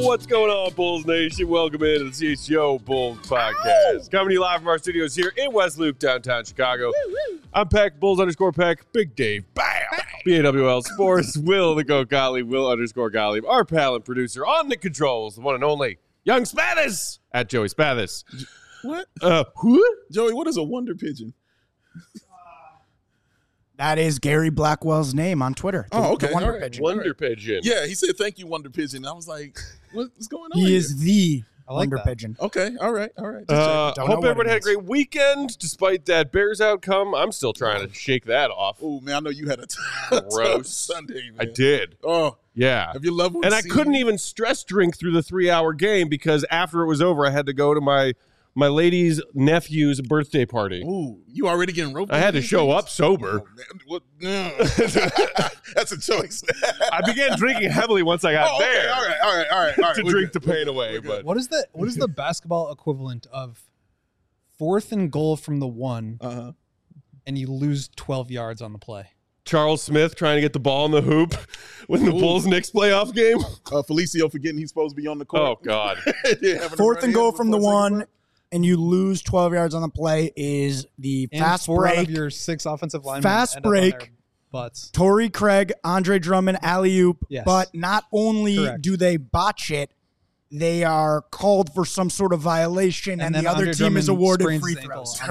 What's going on, Bulls Nation? Welcome into the CHGO Bulls Podcast. Coming to you live from our studios here in West Loop, downtown Chicago. I'm Peck, Bulls_Peck, Big Dave, bam! BAWL Sports, Will the Go Gottlieb, Will_Gottlieb, our pal and producer on the controls, the one and only Young Spathis at Joey Spathis. What? Who? Joey, what is a wonder pigeon? That is Gary Blackwell's name on Twitter. Okay. The Wonder All right. Pigeon. Wonder Pigeon. Yeah, he said, thank you, Wonder Pigeon. I was like, what's going on He here? is the Wonder that. Pigeon. Okay, all right. Just Don't know Hope what everyone it had a is. great weekend despite that Bears outcome. I'm still trying to shake that off. Oh, man, I know you had a Gross. tough Sunday, man. I did. Oh, Yeah. have your loved ones And I seen couldn't you? even stress drink through the 3-hour game because after it was over, I had to go to my lady's nephew's birthday party. Ooh, you already getting roped? I had to into show things? up sober. Oh, man. What? No. That's a choice. I began drinking heavily once I got okay, there all right. to We're drink good. the pain away. But What is the basketball equivalent of 4th and goal from the 1 Uh-huh. and you lose 12 yards on the play? Charles Smith trying to get the ball in the hoop when the Bulls-Knicks playoff game. Felicio forgetting he's supposed to be on the Oh, court. God. Fourth and goal from the 1, and you lose 12 yards on the play is the And fast 4 out break. of your 6 offensive linemen Fast end up on break. their butts. Torrey Craig, Andre Drummond, alley-oop. Yes. But not only Correct. do they botch it, they are called for some sort of violation, and then the other Andre team is Drummond awarded sprains free his ankle. throws.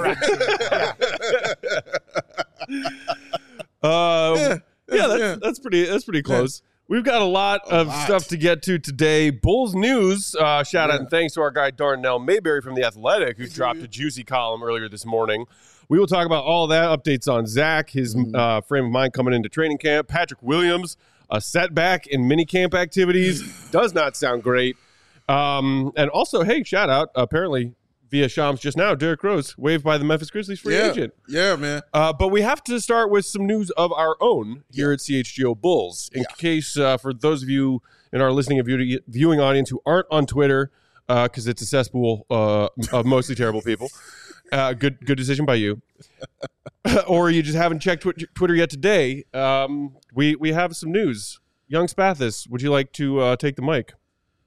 Correct. That's pretty close. We've got a lot of stuff to get to today. Bulls news. Shout out and thanks to our guy Darnell Mayberry from The Athletic, who dropped a juicy column earlier this morning. We will talk about all that, updates on Zach, his frame of mind coming into training camp. Patrick Williams, a setback in minicamp activities. Does not sound great. And also, hey, shout out, apparently via Shams just now, Derrick Rose waived by the Memphis Grizzlies free agent. Yeah, man. But we have to start with some news of our own here at CHGO Bulls. In case, for those of you in our listening and viewing audience who aren't on Twitter, because it's a cesspool of mostly terrible people, good decision by you. Or you just haven't checked Twitter yet today, we have some news. Young Spathis, would you like to take the mic?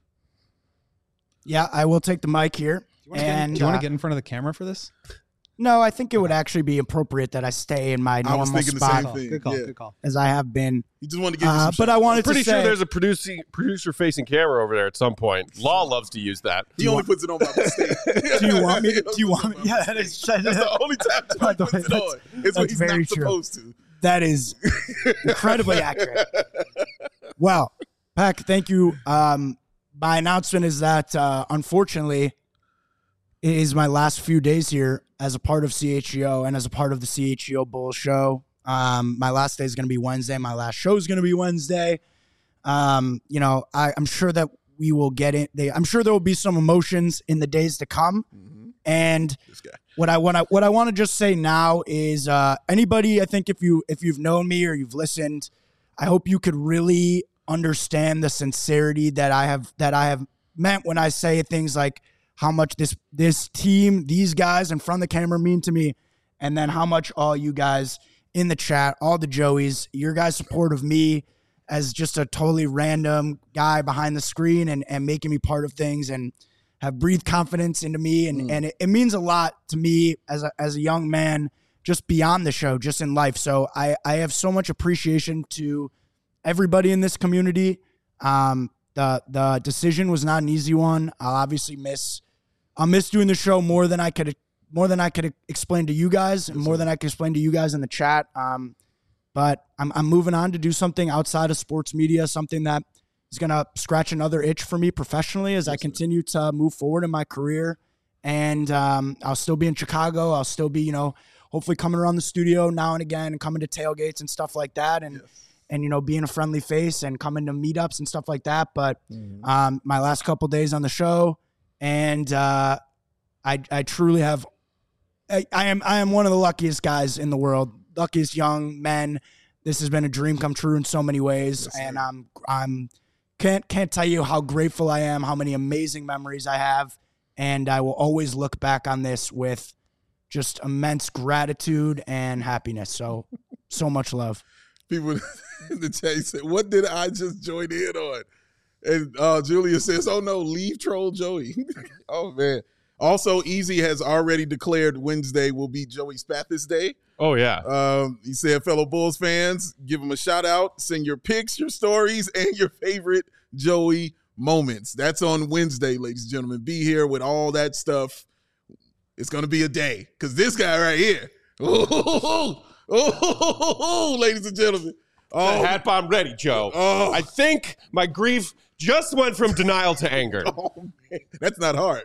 Yeah, I will take the mic here. Do you want to get in front of the camera for this? No, I think it would actually be appropriate that I stay in my I was normal thinking the spot same thing. Good call. Yeah. Good call. as I have been. You just want to give you some But I wanted Pretty to say, sure there's a producer-facing camera over there at some point. Law loves to use that. He only puts it on by mistake. do you want me? Do you want me? Yeah, that is. That's the only time By Joey the puts way, it on. It's when that's he's very not true. supposed to. That is incredibly accurate. Well, Peck, thank you. My announcement is that, unfortunately, it is my last few days here as a part of CHGO and as a part of the CHGO Bulls show. My last day is going to be Wednesday. My last show is going to be Wednesday. I'm sure that we will get in. I'm sure there will be some emotions in the days to come. And This guy. what I want to just say now is anybody, I think if you've known me or you've listened, I hope you could really understand the sincerity that I have meant when I say things like how much this team, these guys in front of the camera mean to me, and then how much all you guys in the chat, all the Joeys, your guys' support of me as just a totally random guy behind the screen and making me part of things and have breathed confidence into me. And it means a lot to me as a young man, just beyond the show, just in life. So I have so much appreciation to everybody in this community. The decision was not an easy one. I'll miss doing the show more than I could explain to you guys, and more than I could explain to you guys in the chat. But I'm moving on to do something outside of sports media, something that is going to scratch another itch for me professionally as I continue to move forward in my career. And I'll still be in Chicago. I'll still be, hopefully coming around the studio now and again and coming to tailgates and stuff like that. And being a friendly face and coming to meetups and stuff like that. But my last couple days on the show, and I truly have. I am one of the luckiest guys in the world, luckiest young men. This has been a dream come true in so many ways, and I'm can't tell you how grateful I am, how many amazing memories I have, and I will always look back on this with just immense gratitude and happiness. So much love. People in the chat said, "What did I just join in on?" And Julia says, "Oh no, leave troll Joey." Oh man. Also, Easy has already declared Wednesday will be Joey Spathis Day. Oh yeah. He said, fellow Bulls fans, give him a shout out, send your pics, your stories, and your favorite Joey moments. That's on Wednesday, ladies and gentlemen. Be here with all that stuff. It's gonna be a day because this guy right here. Ladies and gentlemen. The hat bomb ready, Joe. Oh. I think my grief just went from denial to anger. Oh, man. That's not hard.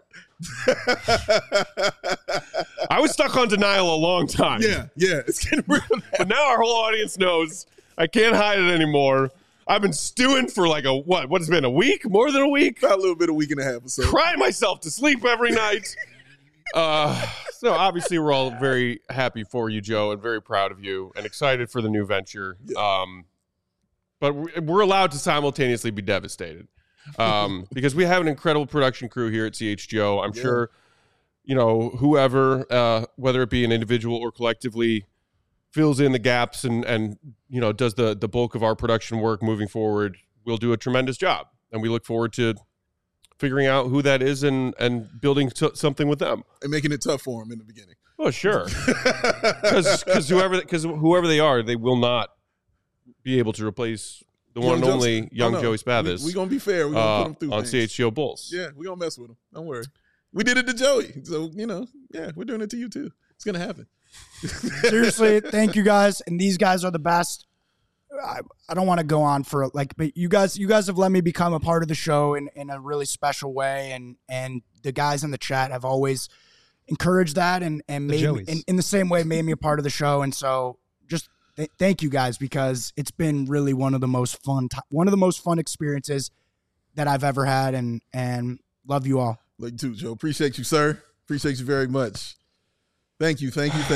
I was stuck on denial a long time. Yeah. It's getting real. But now our whole audience knows I can't hide it anymore. I've been stewing for like what has been a week? More than a week? About a little bit, a week and a half or so. Crying myself to sleep every night. So obviously we're all very happy for you, Joe, and very proud of you and excited for the new venture. Yeah. But we're allowed to simultaneously be devastated because we have an incredible production crew here at CHGO. I'm sure, whoever, whether it be an individual or collectively, fills in the gaps and does the bulk of our production work moving forward, we'll do a tremendous job. And we look forward to figuring out who that is and building something with them. And making it tough for them in the beginning. Oh, sure. Because whoever they are, they will not be able to replace the one and only young Joey Spathis. We're going to be fair. We're going to put him through on things. CHGO Bulls. Yeah, we're going to mess with him. Don't worry. We did it to Joey. So, we're doing it to you too. It's going to happen. Seriously, thank you guys. And these guys are the best. I don't want to go on for but you guys have let me become a part of the show in a really special way. And the guys in the chat have always encouraged that and made me, in the same way made me a part of the show. And so just thank you guys, because it's been really one of the most fun experiences that I've ever had, and love you all. Love you too, Joe. Appreciate you, sir. Appreciate you very much. Thank you.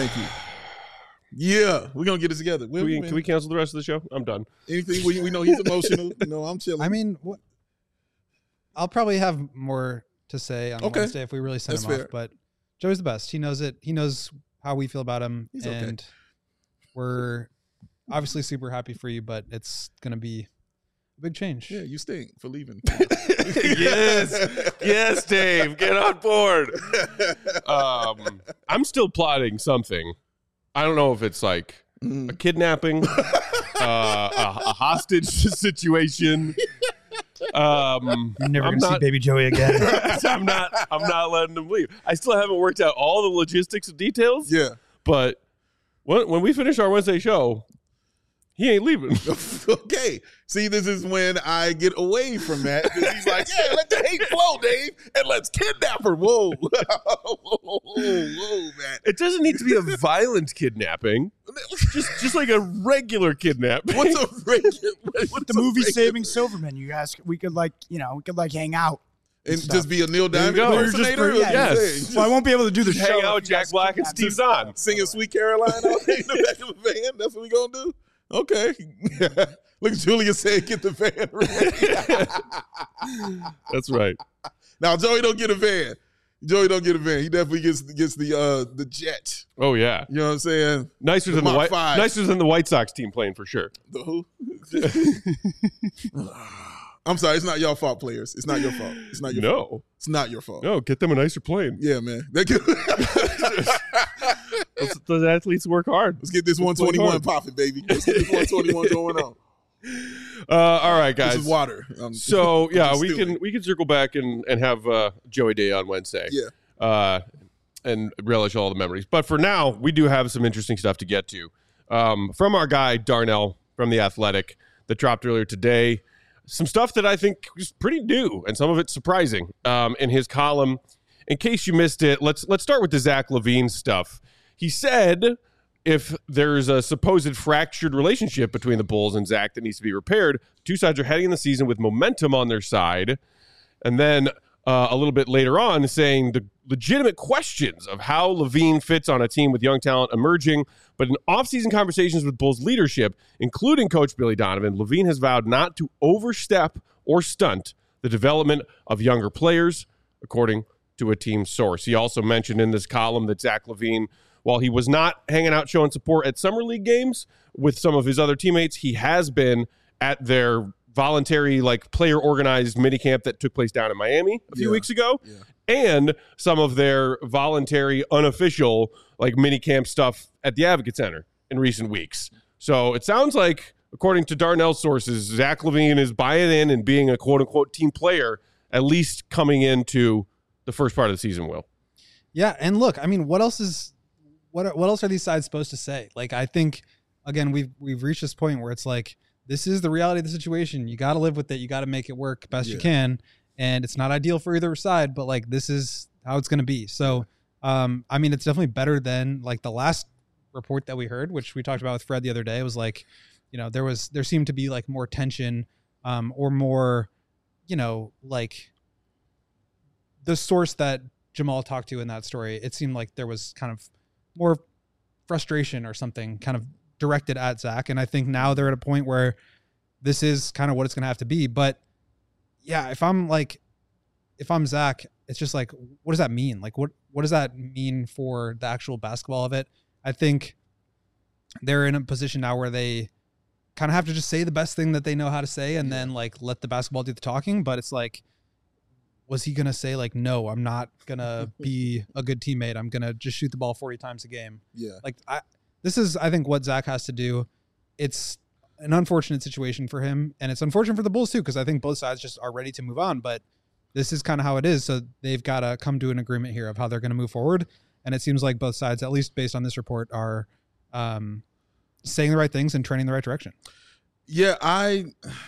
Yeah, we're going to get it together. Can we cancel the rest of the show? I'm done. Anything we know he's emotional. I'm chilling. I mean, I'll probably have more to say on Wednesday if we really send him off. But Joey's the best. He knows it. He knows how we feel about him. He's and we're obviously super happy for you, but it's going to be a big change. Yeah, you stink for leaving. Yes, Dave. Get on board. I'm still plotting something. I don't know if it's like a kidnapping, a hostage situation. You're never going to see baby Joey again. I'm not letting him leave. I still haven't worked out all the logistics and details. Yeah. But when we finish our Wednesday show, he ain't leaving. Okay. See, this is when I get away from that. Because he's like, yeah, let the hate flow, Dave, and let's kidnap her. Whoa. Whoa, man. It doesn't need to be a violent kidnapping. Just like a regular kidnapping. What's a regular? The movie Saving Silverman, you guys, we could hang out. And just be a Neil Diamond go. impersonator? Yes. Well, I won't be able to do the show. Hang out with Jack Black and Steve Zahn. Singing Sweet Caroline out there in the back of the van? That's what we going to do? Okay. Look at Julia saying, get the van ready. That's right. Now, Joey don't get a van. He definitely gets the jet. Oh, yeah. You know what I'm saying? Nicer than the White Sox team playing for sure. The who? I'm sorry. It's not your fault, players. It's not your fault. It's not your fault. It's not your fault. No, get them a nicer plane. Yeah, man. Those athletes work hard. Let's get this 121 popping, baby. Let's get this 121 going on. All right, guys. This is water. So we can circle back and have Joey Day on Wednesday. Yeah. And relish all the memories. But for now, we do have some interesting stuff to get to. From our guy Darnell from The Athletic that dropped earlier today. Some stuff that I think is pretty new and some of it's surprising in his column. In case you missed it, let's start with the Zach LaVine stuff. He said if there's a supposed fractured relationship between the Bulls and Zach that needs to be repaired, two sides are heading in the season with momentum on their side. And then a little bit later on saying the legitimate questions of how LaVine fits on a team with young talent emerging. But in offseason conversations with Bulls leadership, including Coach Billy Donovan, LaVine has vowed not to overstep or stunt the development of younger players, according to a team source. He also mentioned in this column that Zach LaVine, while he was not hanging out showing support at summer league games with some of his other teammates, he has been at their voluntary, like player organized minicamp that took place down in Miami a few weeks ago, and some of their voluntary, unofficial, like minicamp stuff at the Advocate Center in recent weeks. So it sounds like, according to Darnell's sources, Zach LaVine is buying in and being a quote unquote team player, at least coming into the first part of the season, Will. Yeah. And look, I mean, what else are these sides supposed to say? Like, I think, again, we've reached this point where it's like, this is the reality of the situation. You got to live with it. You got to make it work best you can. And it's not ideal for either side, but like, this is how it's going to be. So, I mean, it's definitely better than like the last report that we heard, which we talked about with Fred the other day. It was like, you know, there seemed to be like more tension, or more, you know, like the source that Jamal talked to in that story. It seemed like there was kind of more frustration or something kind of directed at Zach. And I think now they're at a point where this is kind of what it's going to have to be. But yeah, if I'm Zach, it's just like, what does that mean? Like, what does that mean for the actual basketball of it? I think they're in a position now where they kind of have to just say the best thing that they know how to say and then like let the basketball do the talking. But it's like, was he going to say like, no, I'm not going to be a good teammate. I'm going to just shoot the ball 40 times a game. Yeah. Like this is, I think, what Zach has to do. It's an unfortunate situation for him, and it's unfortunate for the Bulls too, because I think both sides just are ready to move on, but this is kind of how it is. So they've got to come to an agreement here of how they're going to move forward. And it seems like both sides, at least based on this report, are saying the right things and trending the right direction. Yeah, I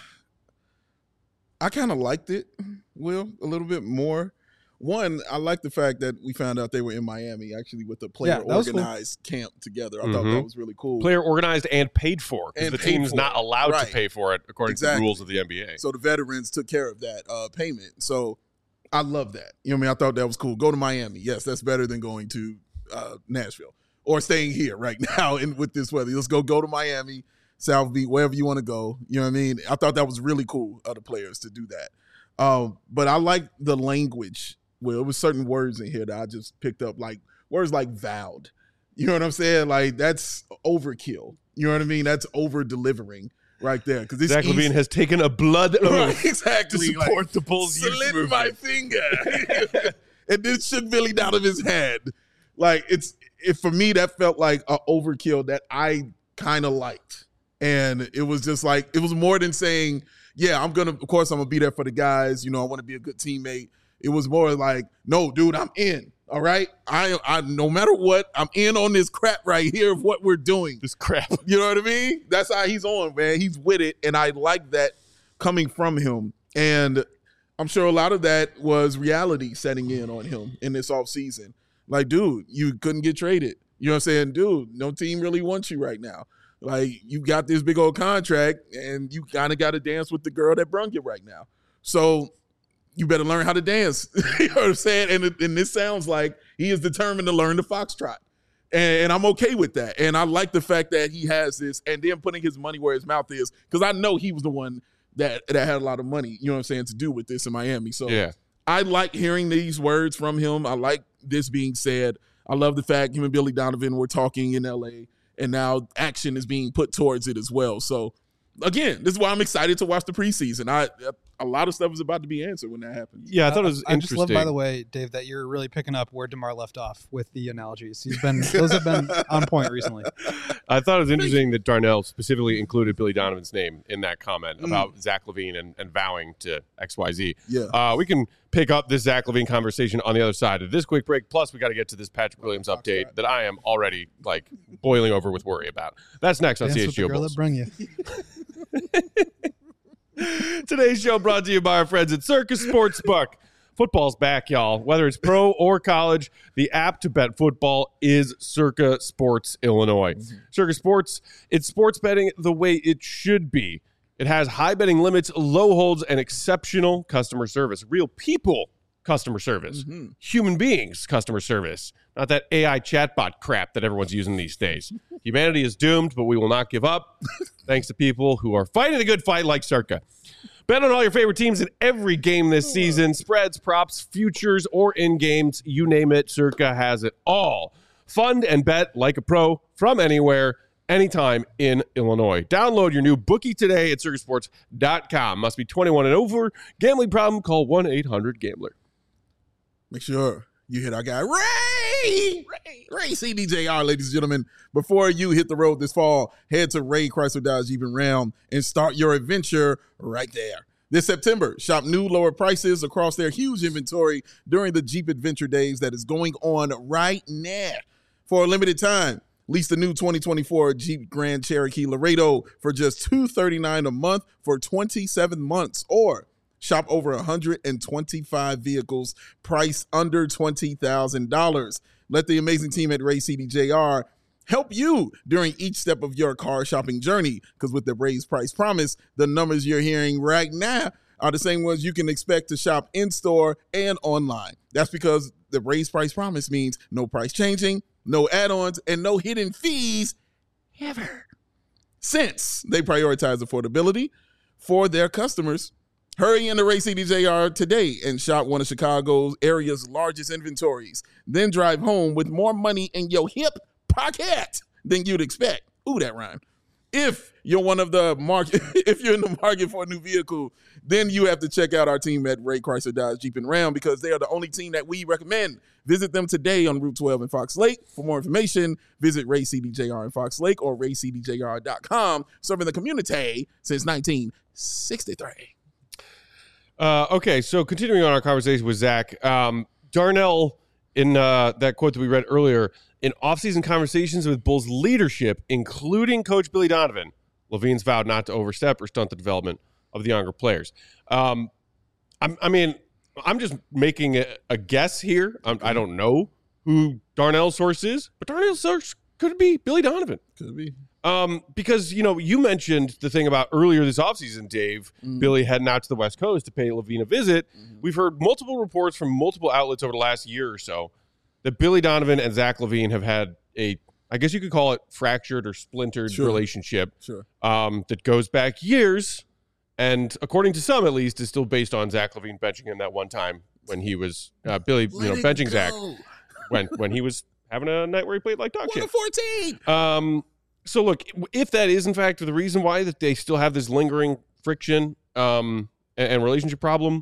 kind of liked it, Will, a little bit more. One, I like the fact that we found out they were in Miami, actually, with a player-organized camp together. I thought that was really cool. Player-organized and paid for, because the team's not allowed to pay for it, according to the rules of the NBA. So the veterans took care of that payment. So I love that. You know what I mean? I thought that was cool. Go to Miami. Yes, that's better than going to Nashville or staying here right now with this weather. Let's go to Miami, South Beach, wherever you want to go. You know what I mean? I thought that was really cool of the players to do that. But I like the language. Well, it was certain words in here that I just picked up, like words like vowed. You know what I'm saying? Like, that's overkill. You know what I mean? That's over-delivering right there. Because Zach LaVine has taken a blood oath to support the Bulls. Slid my finger. And this shit really out of his head. Like, for me, that felt like an overkill that I kind of liked. And it was just like, it was more than saying, yeah, of course I'm going to be there for the guys. You know, I want to be a good teammate. It was more like, no, dude, I'm in. All right. I no matter what, I'm in on this crap right here of what we're doing. This crap. You know what I mean? That's how he's on, man. He's with it. And I like that coming from him. And I'm sure a lot of that was reality setting in on him in this offseason. Like, dude, you couldn't get traded. You know what I'm saying? Dude, no team really wants you right now. Like, you got this big old contract and you kind of got to dance with the girl that brung you right now. So you better learn how to dance. You know what I'm saying? And this sounds like he is determined to learn the foxtrot. And I'm okay with that. And I like the fact that he has this and then putting his money where his mouth is, because I know he was the one that had a lot of money, you know what I'm saying, to do with this in Miami. So yeah. I like hearing these words from him. I like this being said. I love the fact him and Billy Donovan were talking in L.A., and now action is being put towards it as well. So, again, this is why I'm excited to watch the preseason. A lot of stuff is about to be answered when that happens. Yeah, I thought it was interesting. I just love, by the way, Dave, that you're really picking up where DeMar left off with the analogies. Those have been on point recently. I thought it was interesting that Darnell specifically included Billy Donovan's name in that comment about Zach LaVine and vowing to XYZ. Yeah. We can pick up this Zach LaVine conversation on the other side of this quick break. Plus, we got to get to this Patrick Williams update that I am already like boiling over with worry about. That's next on CHGO Bulls. Bring you. Today's show brought to you by our friends at Circa Sportsbook. Football's back, y'all. Whether it's pro or college, the app to bet football is Circa Sports Illinois. Circa Sports, it's sports betting the way it should be. It has high betting limits, low holds, and exceptional customer service. Real people customer service. Human beings customer service. Not that AI chatbot crap that everyone's using these days. Humanity is doomed, but we will not give up. Thanks to people who are fighting the good fight like Circa. Bet on all your favorite teams in every game this season. Spreads, props, futures, or in-games. You name it, Circa has it all. Fund and bet like a pro from anywhere, anytime in Illinois. Download your new bookie today at circusports.com. Must be 21 and over. Gambling problem? Call 1-800-GAMBLER. Make sure you hit our guy, Ray CDJR, ladies and gentlemen. Before you hit the road this fall, head to Ray Chrysler Dodge Jeep and Ram and start your adventure right there. This September, shop new lower prices across their huge inventory during the Jeep Adventure Days that is going on right now. For a limited time, lease the new 2024 Jeep Grand Cherokee Laredo for just $239 a month for 27 months, or shop over 125 vehicles priced under $20,000. Let the amazing team at Ray CDJR help you during each step of your car shopping journey, because with the raised price promise, the numbers you're hearing right now are the same ones you can expect to shop in-store and online. That's because the raised price promise means no price changing, no add-ons, and no hidden fees ever. Since they prioritize affordability for their customers, hurry into Ray CDJR today and shop one of Chicago's area's largest inventories. Then drive home with more money in your hip pocket than you'd expect. Ooh, that rhymed. If you're in the market for a new vehicle, then you have to check out our team at Ray Chrysler Dodge Jeep and Ram, because they are the only team that we recommend. Visit them today on Route 12 in Fox Lake. For more information, visit Ray CDJR in Fox Lake or raycdjr.com, serving the community since 1963. Okay, so continuing on our conversation with Zach, Darnell, in that quote that we read earlier, in offseason conversations with Bulls leadership, including Coach Billy Donovan, Levine's vowed not to overstep or stunt the development of the younger players. I'm just making a guess here. I don't know who Darnell's source is, but Darnell's source could be Billy Donovan. Could be. Because, you mentioned the thing about earlier this offseason, Dave, Billy heading out to the West Coast to pay Levine a visit. We've heard multiple reports from multiple outlets over the last year or so that Billy Donovan and Zach LaVine have had I guess you could call it fractured or splintered relationship that goes back years. And according to some, at least, is still based on Zach LaVine benching him that one time when he was Billy, benching Zach when he was having a night where he played like dog shit. 14. So look, if that is in fact the reason why that they still have this lingering friction and relationship problem,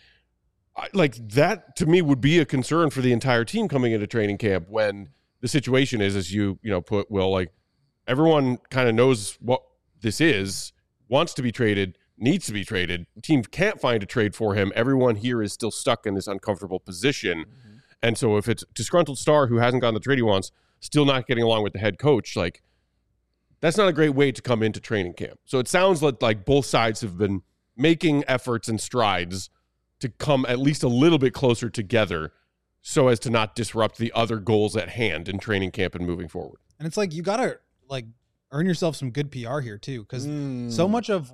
like that to me would be a concern for the entire team coming into training camp, when the situation is, as you put, Will, like everyone kind of knows what this is, wants to be traded, needs to be traded. The team can't find a trade for him. Everyone here is still stuck in this uncomfortable position. And so if it's a disgruntled star who hasn't gotten the trade he wants, still not getting along with the head coach, like that's not a great way to come into training camp. So it sounds like both sides have been making efforts and strides to come at least a little bit closer together so as to not disrupt the other goals at hand in training camp and moving forward. And it's like, you got to earn yourself some good PR here too. Because so much of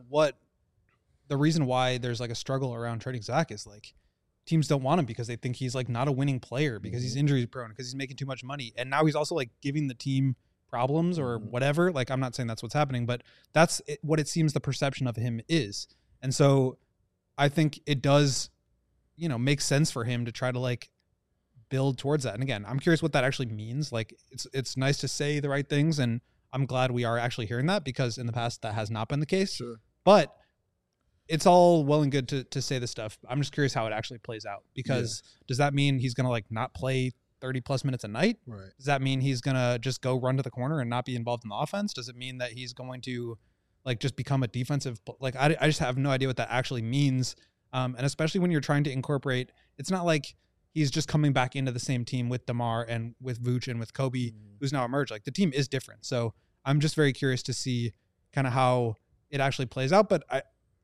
the reason why there's like a struggle around trading Zach is like teams don't want him because they think he's like not a winning player, because he's injury prone, because he's making too much money. And now he's also like giving the team problems or whatever. Like, I'm not saying that's what's happening, but that's what it seems the perception of him is. And so I think it does, make sense for him to try to like build towards that. And again, I'm curious what that actually means. Like, it's nice to say the right things, and I'm glad we are actually hearing that, because in the past that has not been the case. Sure. But it's all well and good to say this stuff. I'm just curious how it actually plays out, because does that mean he's going to like not play 30 plus minutes a night? Right. Does that mean he's going to just go run to the corner and not be involved in the offense? Does it mean that he's going to like just become a defensive, like I just have no idea what that actually means. And especially when you're trying to incorporate, it's not like he's just coming back into the same team with DeMar and with Vooch and with Kobe, who's now emerged. Like, the team is different. So I'm just very curious to see kind of how it actually plays out. But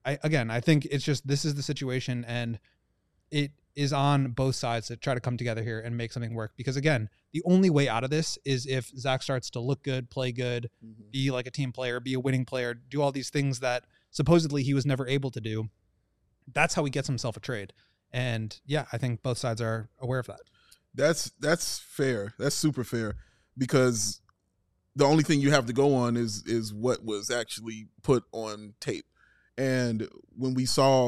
I think it's just, this is the situation, and it is on both sides to try to come together here and make something work. Because again, the only way out of this is if Zach starts to look good, play good, be like a team player, be a winning player, do all these things that supposedly he was never able to do. That's how he gets himself a trade. And yeah, I think both sides are aware of that. That's fair. That's super fair, because the only thing you have to go on is what was actually put on tape. And when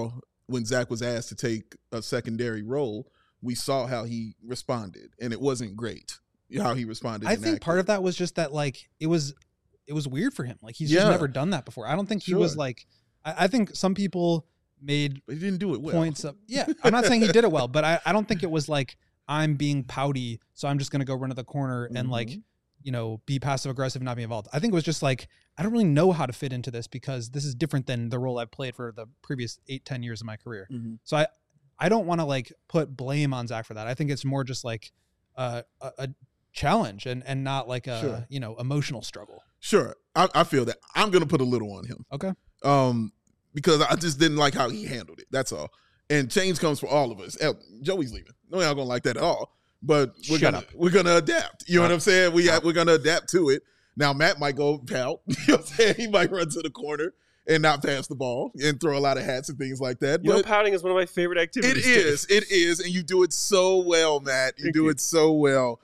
Zach was asked to take a secondary role, we saw how he responded, and it wasn't great how he responded. I think part of that was just that, like, it was it was weird for him. Like he's just never done that before. I don't think he was like, I think some people made but he didn't do it well. points up. Yeah. I'm not saying he did it well, but I don't think it was like, I'm being pouty, so I'm just going to go run to the corner and like, you know, be passive aggressive and not be involved. I think it was just like, I don't really know how to fit into this because this is different than the role I've played for the previous 8-10 years of my career. So I don't want to like put blame on Zach for that. I think it's more just like a challenge and not like a, you know, emotional struggle. Sure. I feel that. I'm going to put a little on him. Okay. Because I just didn't like how he handled it. That's all. And change comes for all of us. Joey's leaving. No, y'all gonna like that at all. But we're gonna adapt. You know what I'm saying? We're gonna adapt to it. Now Matt might go pout. You know what I'm saying? He might run to the corner and not pass the ball and throw a lot of hats and things like that. You know, pouting is one of my favorite activities. It is, and you do it so well, Matt. You do it so well.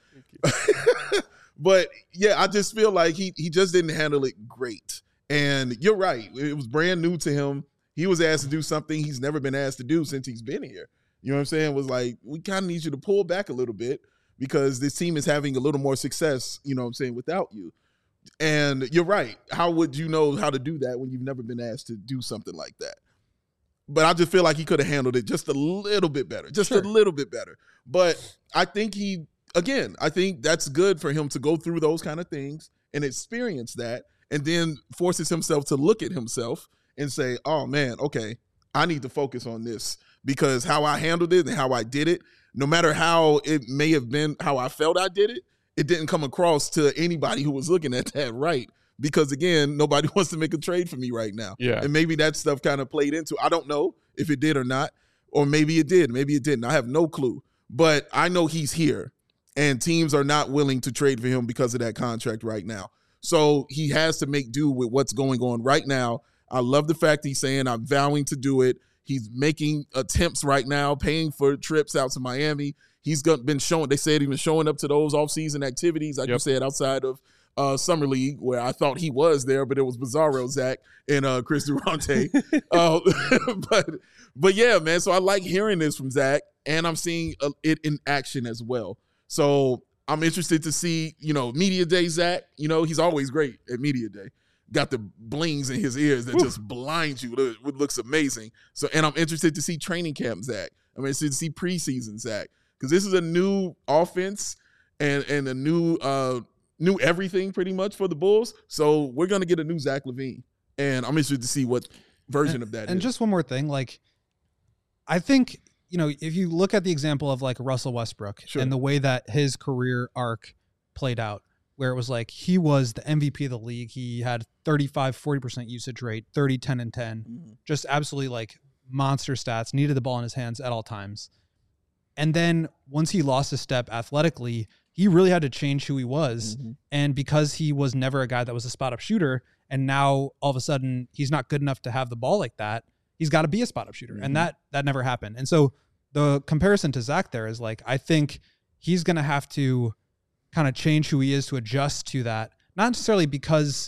But yeah, I just feel like he just didn't handle it great. And you're right. It was brand new to him. He was asked to do something he's never been asked to do since he's been here. You know what I'm saying? It was like, we kind of need you to pull back a little bit because this team is having a little more success, you know what I'm saying, without you. And you're right. How would you know how to do that when you've never been asked to do something like that? But I just feel like he could have handled it just a little bit better, a little bit better. But I think I think that's good for him to go through those kind of things and experience that and then forces himself to look at himself and say, oh, man, okay, I need to focus on this because how I handled it and how I did it, no matter how it may have been, how I felt I did it, it didn't come across to anybody who was looking at that right. Because, again, nobody wants to make a trade for me right now. Yeah. And maybe that stuff kind of played into it. I don't know if it did or not, or maybe it did. Maybe it didn't. I have no clue. But I know he's here, and teams are not willing to trade for him because of that contract right now. So he has to make do with what's going on right now. I love the fact he's saying I'm vowing to do it. He's making attempts right now, paying for trips out to Miami. He's been showing. They said he was showing up to those offseason activities, like you said, outside of Summer League, where I thought he was there, but it was Bizarro Zach and Chris Durante. But yeah, man. So I like hearing this from Zach, and I'm seeing it in action as well. So I'm interested to see, Media Day Zach. He's always great at Media Day. Got the blings in his ears that just blind you. It looks amazing. So, and I'm interested to see training camp Zach. I'm interested to see preseason Zach, because this is a new offense and a new everything pretty much for the Bulls. So we're gonna get a new Zach LaVine, and I'm interested to see what version of that. And is. Just one more thing, I think if you look at the example of Russell Westbrook and the way that his career arc played out, where it was he was the MVP of the league. He had 35-40% usage rate, 30, 10, and 10. Just absolutely monster stats, needed the ball in his hands at all times. And then once he lost a step athletically, he really had to change who he was. And because he was never a guy that was a spot-up shooter, and now all of a sudden he's not good enough to have the ball like that, he's got to be a spot-up shooter. And that never happened. And so the comparison to Zach there is I think he's going to have to kind of change who he is to adjust to that. Not necessarily because,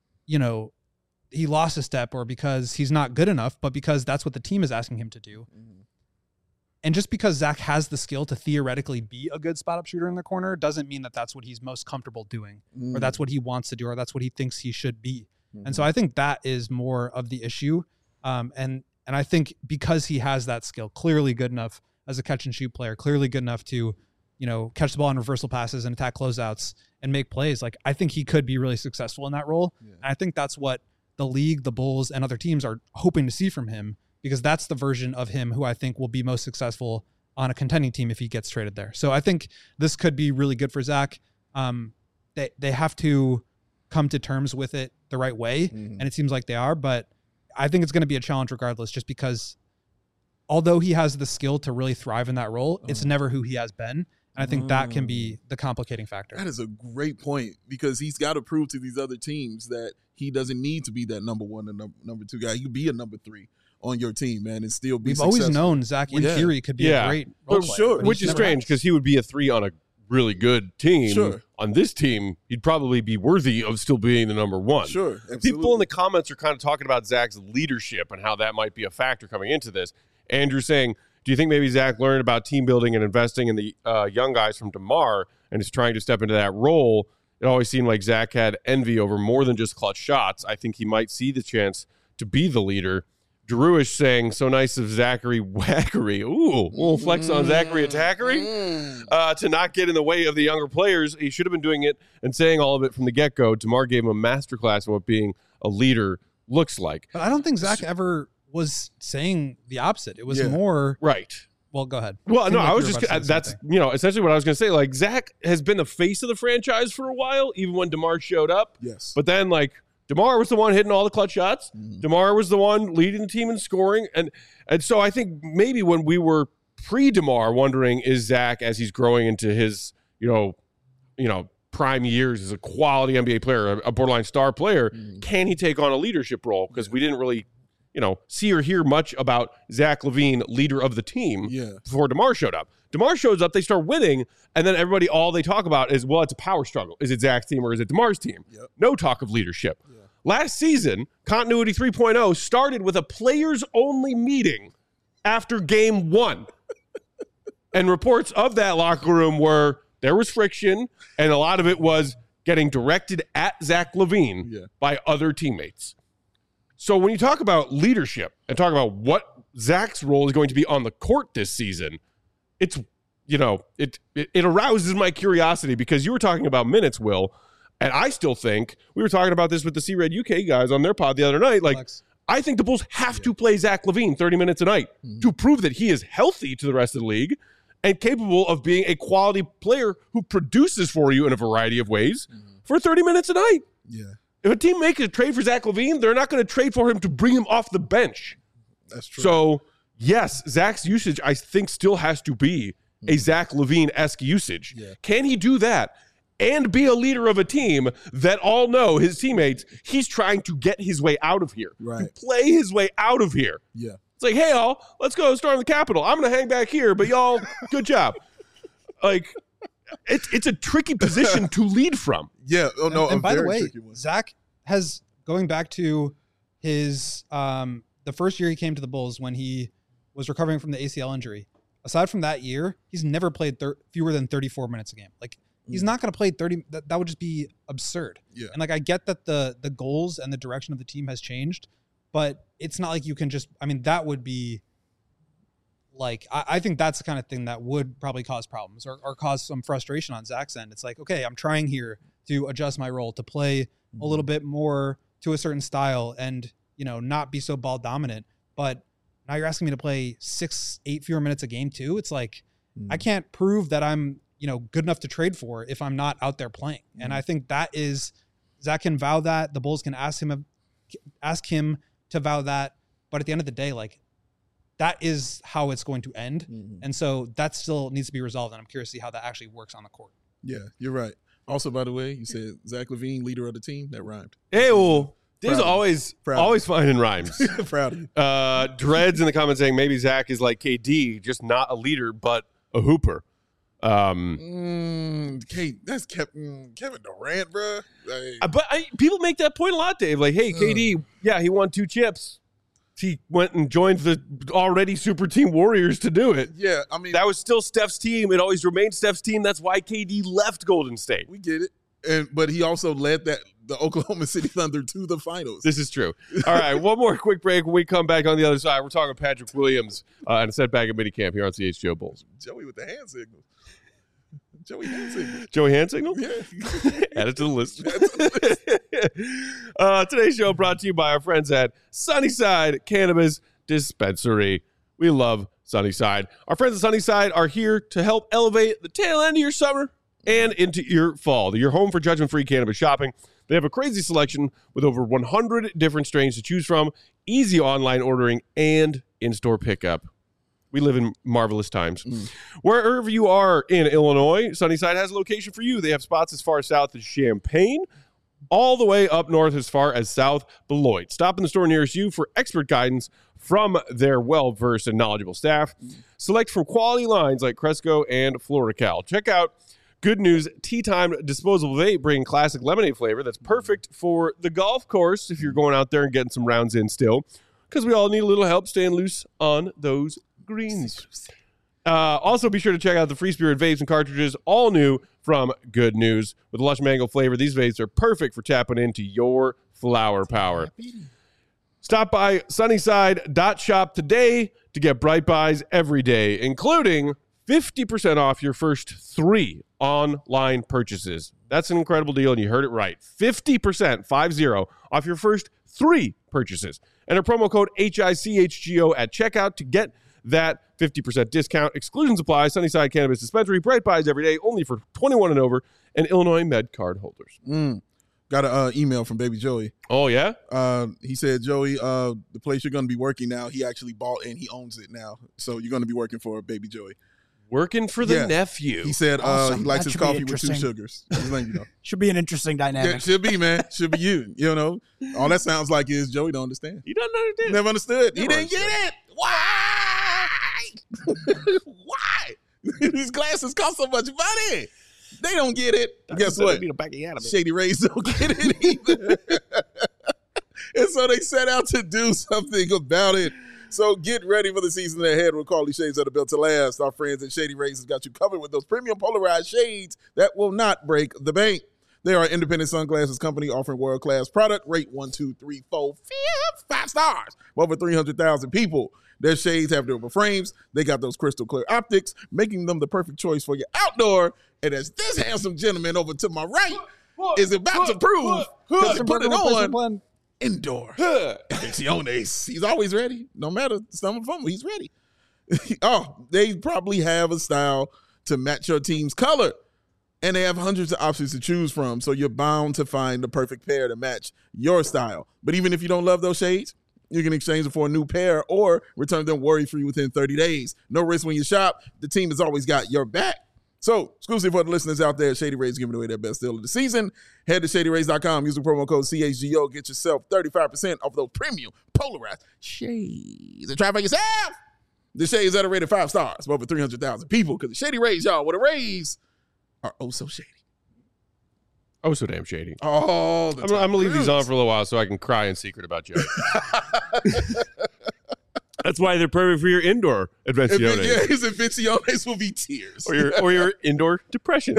he lost a step or because he's not good enough, but because that's what the team is asking him to do. And just because Zach has the skill to theoretically be a good spot-up shooter in the corner doesn't mean that that's what he's most comfortable doing or that's what he wants to do or that's what he thinks he should be. And so I think that is more of the issue. And I think because he has that skill, clearly good enough as a catch-and-shoot player, clearly good enough to catch the ball in reversal passes and attack closeouts and make plays. I think he could be really successful in that role. Yeah. And I think that's what the league, the Bulls, and other teams are hoping to see from him, because that's the version of him who I think will be most successful on a contending team if he gets traded there. So I think this could be really good for Zach. They have to come to terms with it the right way, and it seems like they are, but I think it's going to be a challenge regardless, just because although he has the skill to really thrive in that role, it's never who he has been. And I think that can be the complicating factor. That is a great point, because he's got to prove to these other teams that he doesn't need to be that number one and number two guy. He could be a number three on your team, man, and still be successful. We've always known Zach, in theory, could be a great role player. Sure. Which is strange, because he would be a three on a really good team. Sure. On this team, he'd probably be worthy of still being the number one. Sure, absolutely. People in the comments are kind of talking about Zach's leadership and how that might be a factor coming into this. Andrew saying, do you think maybe Zach learned about team building and investing in the young guys from DeMar and is trying to step into that role? it always seemed like Zach had envy over more than just clutch shots. I think he might see the chance to be the leader. Drewish saying, so nice of Zachary Wackery. Ooh, little flex on Zachary Attackery. To not get in the way of the younger players. He should have been doing it and saying all of it from the get-go. DeMar gave him a masterclass on what being a leader looks like. But I don't think Zach ever was saying the opposite. It was more... Right. Well, go ahead. Well, no, I was just... That's, essentially what I was going to say. Like, Zach has been the face of the franchise for a while, even when DeMar showed up. Yes. But then, DeMar was the one hitting all the clutch shots. DeMar was the one leading the team in scoring. And so I think maybe when we were pre-DeMar wondering, is Zach, as he's growing into his, prime years as a quality NBA player, a borderline star player, can he take on a leadership role? Because we didn't really, see or hear much about Zach LaVine, leader of the team, before DeMar showed up. DeMar shows up, they start winning, and then everybody, all they talk about is, well, it's a power struggle. Is it Zach's team or is it DeMar's team? Yep. No talk of leadership. Yeah. Last season, Continuity 3.0 started with a players-only meeting after game 1. And reports of that locker room were there was friction, and a lot of it was getting directed at Zach LaVine by other teammates. So when you talk about leadership and talk about what Zach's role is going to be on the court this season, it's, it arouses my curiosity because you were talking about minutes, Will, and I still think, we were talking about this with the C-Red UK guys on their pod the other night, I think the Bulls have to play Zach LaVine 30 minutes a night to prove that he is healthy to the rest of the league and capable of being a quality player who produces for you in a variety of ways for 30 minutes a night. Yeah. If a team makes a trade for Zach LaVine, they're not going to trade for him to bring him off the bench. That's true. So, yes, Zach's usage, I think, still has to be a Zach LaVine-esque usage. Yeah. Can he do that and be a leader of a team that all know, his teammates, he's trying to get his way out of here, to play his way out of here? Yeah. It's like, hey, y'all, let's go storm the Capitol. I'm going to hang back here, but y'all, good job. It's a tricky position to lead from. Yeah. Oh, no, and by the way, Zach has, going back to his the first year he came to the Bulls when he was recovering from the ACL injury, aside from that year, he's never played fewer than 34 minutes a game. He's not going to play 30. That would just be absurd. Yeah. And I get that the goals and the direction of the team has changed, but it's not like you can just, that would be I think that's the kind of thing that would probably cause problems or cause some frustration on Zach's end. It's like, okay, I'm trying here to adjust my role, to play a little bit more to a certain style and, not be so ball dominant. But now you're asking me to play 6-8 fewer minutes a game too. It's like, I can't prove that I'm, good enough to trade for if I'm not out there playing. And I think that is, Zach can vow that. The Bulls can ask him to vow that. But at the end of the day, that is how it's going to end. And so that still needs to be resolved. And I'm curious to see how that actually works on the court. Yeah, you're right. Also, by the way, you said Zach LaVine, leader of the team. That rhymed. Hey, well, Dave's always finding rhymes. Proud of you. Dreads in the comments saying maybe Zach is like KD, just not a leader, but a hooper. That's Kevin Durant, bro. But people make that point a lot, Dave. Hey, KD, he won 2 chips. He went and joined the already super team Warriors to do it. Yeah, that was still Steph's team. It always remained Steph's team. That's why KD left Golden State. We get it. But he also led the Oklahoma City Thunder to the finals. This is true. All right, one more quick break. When we come back on the other side, we're talking Patrick Williams and a setback at minicamp here on CHGO Bulls. Joey with the hand signals. Joey hand signal. Joey hand signal? Yeah. Add it to the list. Today's show brought to you by our friends at Sunnyside Cannabis Dispensary. We love Sunnyside. Our friends at Sunnyside are here to help elevate the tail end of your summer and into your fall. They're your home for judgment-free cannabis shopping. They have a crazy selection with over 100 different strains to choose from, easy online ordering, and in-store pickup. We live in marvelous times. Wherever you are in Illinois, Sunnyside has a location for you. They have spots as far south as Champaign, all the way up north as far as South Beloit. Stop in the store nearest you for expert guidance from their well-versed and knowledgeable staff. Select from quality lines like Cresco and FloraCal. Check out Good News Tea Time Disposable Vape, bringing classic lemonade flavor that's perfect for the golf course if you're going out there and getting some rounds in still, because we all need a little help staying loose on those greens. Also, be sure to check out the Free Spirit vapes and cartridges, all new from Good News. With lush mango flavor, these vapes are perfect for tapping into your flower power. Stop by Sunnyside.shop today to get Bright Buys every day, including 50% off your first 3 online purchases. That's an incredible deal, and you heard it right. 50%, 50, off your first 3 purchases. Enter promo code HICHGO at checkout to get that 50% discount. Exclusions apply. Sunnyside Cannabis Dispensary. Bright Buys every day, only for 21 and over, and Illinois Med card holders. Got an email from Baby Joey. Oh, yeah? He said, Joey, the place you're going to be working now, he actually bought and he owns it now. So you're going to be working for Baby Joey. Working for the nephew. He said Awesome. he likes That his should be coffee with 2 interesting. sugars. Just letting you know. Should be an interesting dynamic. Yeah, should be, man. Should be you. You know, all that sounds like is Joey don't understand. He doesn't understand. Never understood. He Never didn't get it. Why? Why? These glasses cost so much money. They don't get it. Guess what? Shady Rays don't get it either. And so they set out to do something about it. So get ready for the season ahead with Carly Shades that are built to last. Our friends at Shady Rays have got you covered with those premium polarized shades that will not break the bank. They are an independent sunglasses company offering world-class product. Rate 1, 2, 3, 4, 5 stars. Over 300,000 people. Their shades have durable frames. They got those crystal clear optics, making them the perfect choice for your outdoor. And as this handsome gentleman over to my right is about to prove, because he put it on indoor. Infecciones. He's always ready. No matter some of them, he's ready. They probably have a style to match your team's color. And they have hundreds of options to choose from, so you're bound to find the perfect pair to match your style. But even if you don't love those shades, you can exchange them for a new pair or return them worry-free within 30 days. No risk when you shop. The team has always got your back. So, exclusive for the listeners out there, Shady Rays giving away their best deal of the season. Head to ShadyRays.com. Use the promo code CHGO. Get yourself 35% off those premium polarized shades. And try for yourself. The shades that are rated 5 stars for over 300,000 people. Because the Shady Rays, y'all, with the Rays are oh so shady. Oh, so damn shady. Oh, I'm going to leave these on for a little while so I can cry in secret about Joey. That's why they're perfect for your indoor Invenciones. Yeah, his Invenciones will be tears. Or your indoor depression.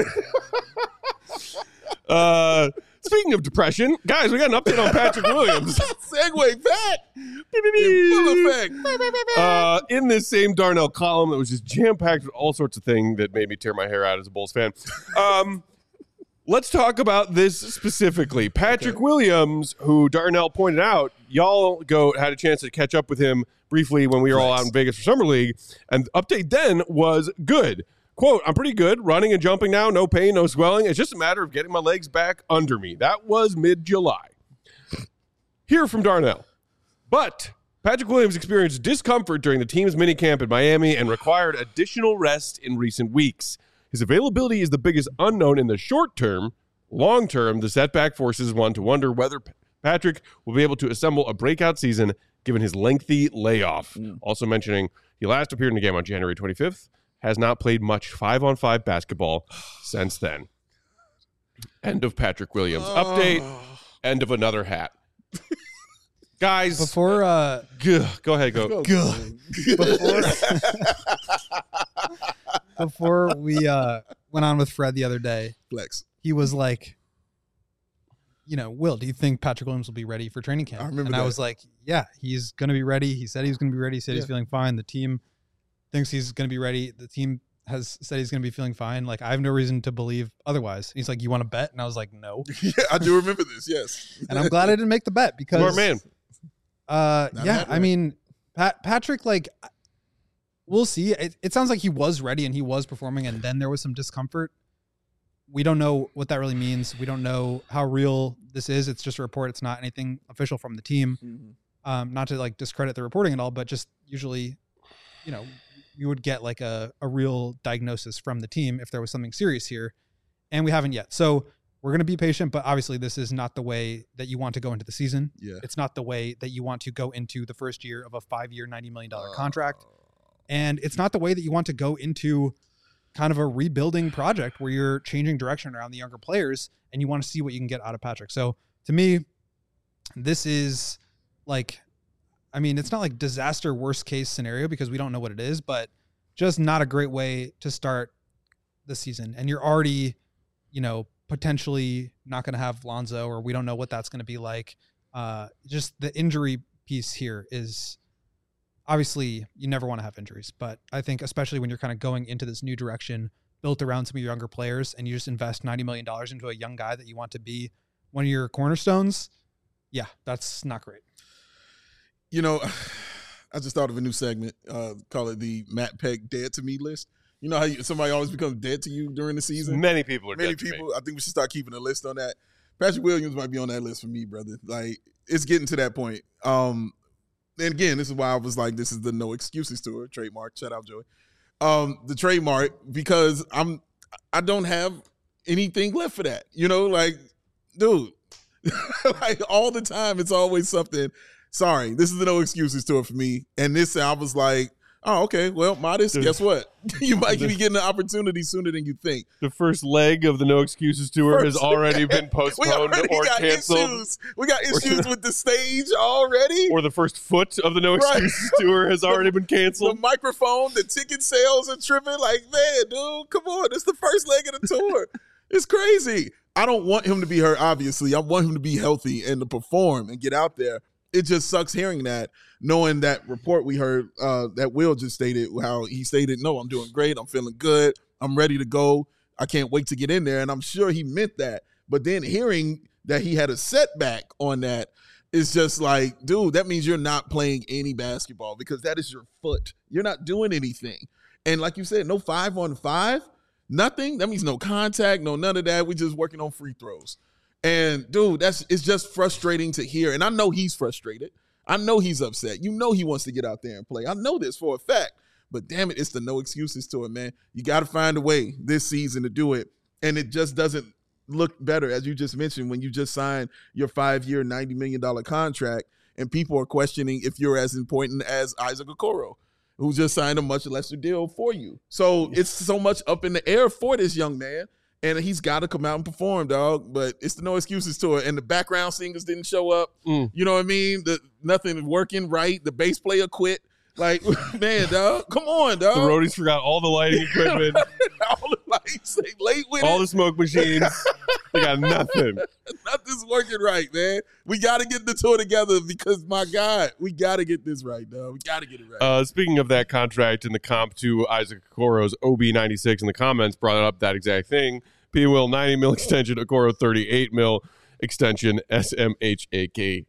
Speaking of depression, guys, we got an update on Patrick Williams. Segue back. In full effect. In this same Darnell column that was just jam-packed with all sorts of things that made me tear my hair out as a Bulls fan. Let's talk about this specifically. Patrick Williams, who Darnell pointed out, y'all had a chance to catch up with him briefly when we were all out in Vegas for Summer League, and the update then was good. Quote, I'm pretty good, running and jumping now, no pain, no swelling. It's just a matter of getting my legs back under me. That was mid-July. Hear from Darnell. But Patrick Williams experienced discomfort during the team's minicamp in Miami and required additional rest in recent weeks. His availability is the biggest unknown in the short term. Long term, the setback forces one to wonder whether Patrick will be able to assemble a breakout season given his lengthy layoff. Also mentioning he last appeared in a game on January 25th, has not played much 5-on-5 basketball since then. End of Patrick Williams update. End of another hat. Guys, Before go ahead, go. before we went on with Fred the other day, Flex. he was like, Will, do you think Patrick Williams will be ready for training camp? I remember and that. I was like, yeah, he's going to be ready. He said he was going to be ready. He said he's feeling fine. The team thinks he's going to be ready. The team has said he's going to be feeling fine. Like, I have no reason to believe otherwise. He's like, you want to bet? And I was like, no. Yeah, I do remember this, yes. And I'm glad I didn't make the bet because Smart man. Yeah, I mean, Patrick, like, we'll see. It sounds like he was ready and he was performing, and then there was some discomfort. We don't know what that really means. We don't know how real this is. It's just a report. It's not anything official from the team. Not to like discredit the reporting at all, but just usually, you would get like a real diagnosis from the team if there was something serious here, and we haven't yet. So we're going to be patient, but obviously this is not the way that you want to go into the season. Yeah. It's not the way that you want to go into the first year of a 5-year, $90 million contract. And it's not the way that you want to go into kind of a rebuilding project where you're changing direction around the younger players and you want to see what you can get out of Patrick. So to me, this is like, I mean, it's not like disaster worst case scenario because we don't know what it is, but just not a great way to start the season. And you're already, potentially not going to have Lonzo, or we don't know what that's going to be like. Just the injury piece here is obviously you never want to have injuries, but I think especially when you're kind of going into this new direction built around some of your younger players and you just invest $90 million into a young guy that you want to be one of your cornerstones. Yeah, that's not great. I just thought of a new segment, call it the Matt Peck Dead to Me list. You know how somebody always becomes dead to you during the season? Many people are dead to me. I think we should start keeping a list on that. Patrick Williams might be on that list for me, brother. Like, it's getting to that point. And again, this is why I was like, this is the No Excuses Tour trademark. Shout out, Joey. The trademark, because I don't have anything left for that. Dude, like all the time, it's always something. Sorry, this is the No Excuses Tour for me. And this, I was like, oh, okay, well, Modest, guess what? You might be getting an opportunity sooner than you think. The first leg of the No Excuses Tour has already been postponed or canceled. We got issues with the stage already. Or the first foot of the No Excuses Tour has already been canceled. The microphone, the ticket sales are tripping. Like, man, dude, come on. It's the first leg of the tour. It's crazy. I don't want him to be hurt, obviously. I want him to be healthy and to perform and get out there. It just sucks hearing that, knowing that report we heard that Will just stated, how he stated, no, I'm doing great. I'm feeling good. I'm ready to go. I can't wait to get in there. And I'm sure he meant that. But then hearing that he had a setback on that is just like, dude, that means you're not playing any basketball because that is your foot. You're not doing anything. And like you said, no 5-on-5, nothing. That means no contact, no none of that. We're just working on free throws. And dude, it's just frustrating to hear. And I know he's frustrated. I know he's upset. He wants to get out there and play. I know this for a fact. But damn it, it's the No Excuses Tour, man. You got to find a way this season to do it. And it just doesn't look better, as you just mentioned, when you just signed your 5-year, $90 million contract, and people are questioning if you're as important as Isaac Okoro, who just signed a much lesser deal for you. So it's so much up in the air for this young man. And he's got to come out and perform, dog. But it's the No Excuses Tour. And the background singers didn't show up. You know what I mean? Nothing working right. The bass player quit. Like, man, dog. Come on, dog. The roadies forgot all the lighting equipment. All the lights. They late with all it. The smoke machines. They got nothing. Nothing's working right, man. We got to get the tour together because, my God, we got to get this right, dog. We got to get it right. Speaking of that contract and the comp to Isaac Okoro's OB96 in the comments brought up that exact thing. P. Will, $90 million extension. Okoro, $38 million extension. SMHAKME.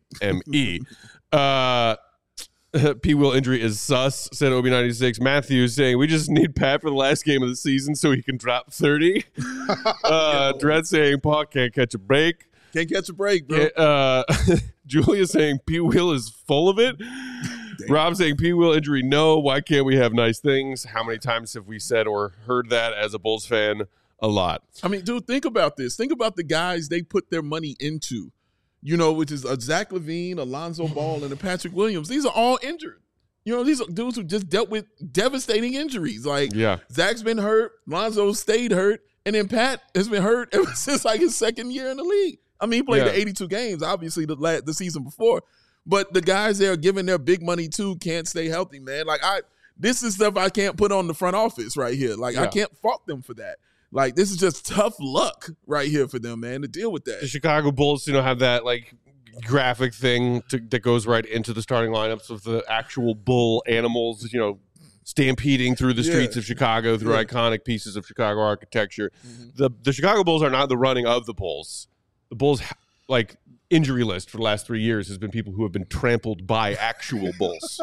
P. Will injury is sus, said OB96. Matthews saying, we just need Pat for the last game of the season so he can drop 30. Dredd saying, Paul can't catch a break. Can't catch a break, bro. Julia saying, P. Will is full of it. Damn. Rob saying, P. Will injury, no. Why can't we have nice things? How many times have we said or heard that as a Bulls fan? A lot. I mean, dude, think about this. Think about the guys they put their money into, which is a Zach LaVine, Alonzo Ball, and a Patrick Williams. These are all injured. These are dudes who just dealt with devastating injuries. Like, Zach's been hurt, Lonzo stayed hurt, and then Pat has been hurt ever since like his second year in the league. I mean, he played the 82 games, obviously, the season before. But the guys they are giving their big money to can't stay healthy, man. Like, this is stuff I can't put on the front office right here. Like, I can't fault them for that. Like, this is just tough luck right here for them, man, to deal with that. The Chicago Bulls, have that, like, graphic thing that goes right into the starting lineups of the actual bull animals, stampeding through the streets of Chicago through iconic pieces of Chicago architecture. Mm-hmm. The Chicago Bulls are not the running of the Bulls. The Bulls, like, injury list for the last 3 years has been people who have been trampled by actual Bulls.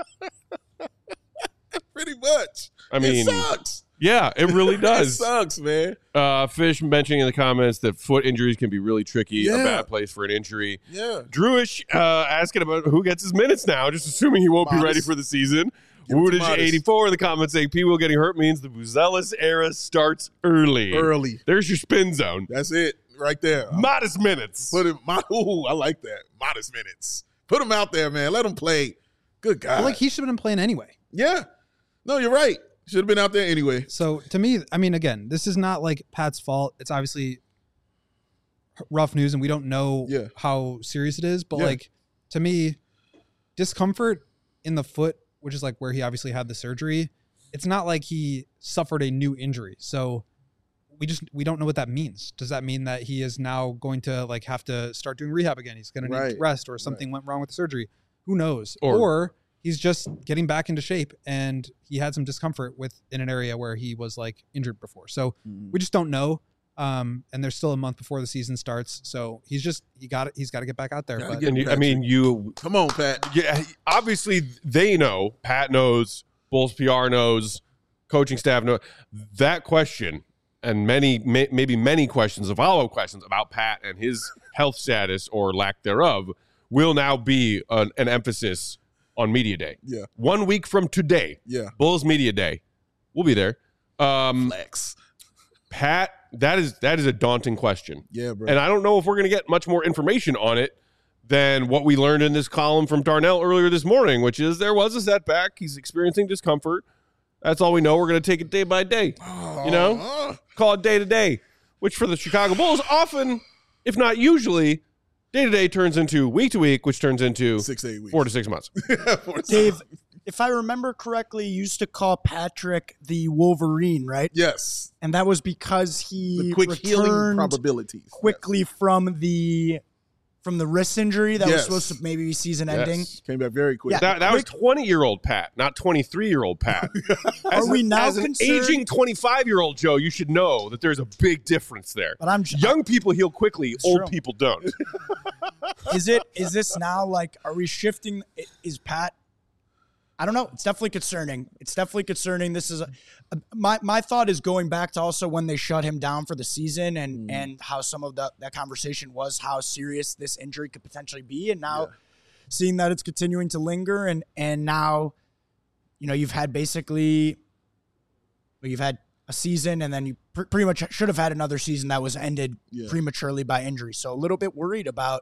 Pretty much. I mean, it sucks. Yeah, it really does. It sucks, man. Fish mentioning in the comments that foot injuries can be really tricky, a bad place for an injury. Yeah. Drewish asking about who gets his minutes now, just assuming he won't be ready for the season. Woodage84 in the comments saying P. Will getting hurt means the Buzelis era starts early. There's your spin zone. That's it right there. Modest minutes. I like that. Modest minutes. Put him out there, man. Let him play. Good God. Well, he should have been playing anyway. Yeah. No, you're right. Should have been out there anyway. So to me, I mean, again, this is not like Pat's fault. It's obviously rough news and we don't know how serious it is. But like, to me, discomfort in the foot, which is like where he obviously had the surgery, it's not like he suffered a new injury. So we don't know what that means. Does that mean that he is now going to like have to start doing rehab again? He's going to need rest, or something went wrong with the surgery. Who knows? Or he's just getting back into shape and he had some discomfort in an area where he was like injured before. So we just don't know. And there's still a month before the season starts. So he's got to get back out there. But, come on, Pat. Yeah, obviously they know, Pat knows, Bulls PR knows, coaching staff knows that question. And maybe many questions, the follow-up questions about Pat and his health status or lack thereof will now be an emphasis on Media Day. Yeah. 1 week from today, Bulls Media Day. We'll be there. Flex. Pat, that is a daunting question. Yeah, bro. And I don't know if we're going to get much more information on it than what we learned in this column from Darnell earlier this morning, which is there was a setback. He's experiencing discomfort. That's all we know. We're going to take it day by day. Call it day to day, which for the Chicago Bulls often, if not usually, day to day turns into week to week, which turns into 6 to 8 weeks. 4 to 6 months. Dave, if I remember correctly, you used to call Patrick the Wolverine, right? Yes. And that was because he the quick healing probabilities quickly from the wrist injury that was supposed to maybe be season ending. Came back very quick. Yeah, that was 20-year-old Pat, not 23-year-old Pat. Are we now as an concerned? aging 25-year-old Joe, you should know that there's a big difference there. But young people heal quickly, old true. people don't. Is this now like, are we shifting? Is Pat? I don't know. It's definitely concerning. This is my thought is going back to also when they shut him down for the season and how some of that conversation was how serious this injury could potentially be. And now seeing that it's continuing to linger and now, you've had a season and then you pretty much should have had another season that was ended prematurely by injury. So a little bit worried about,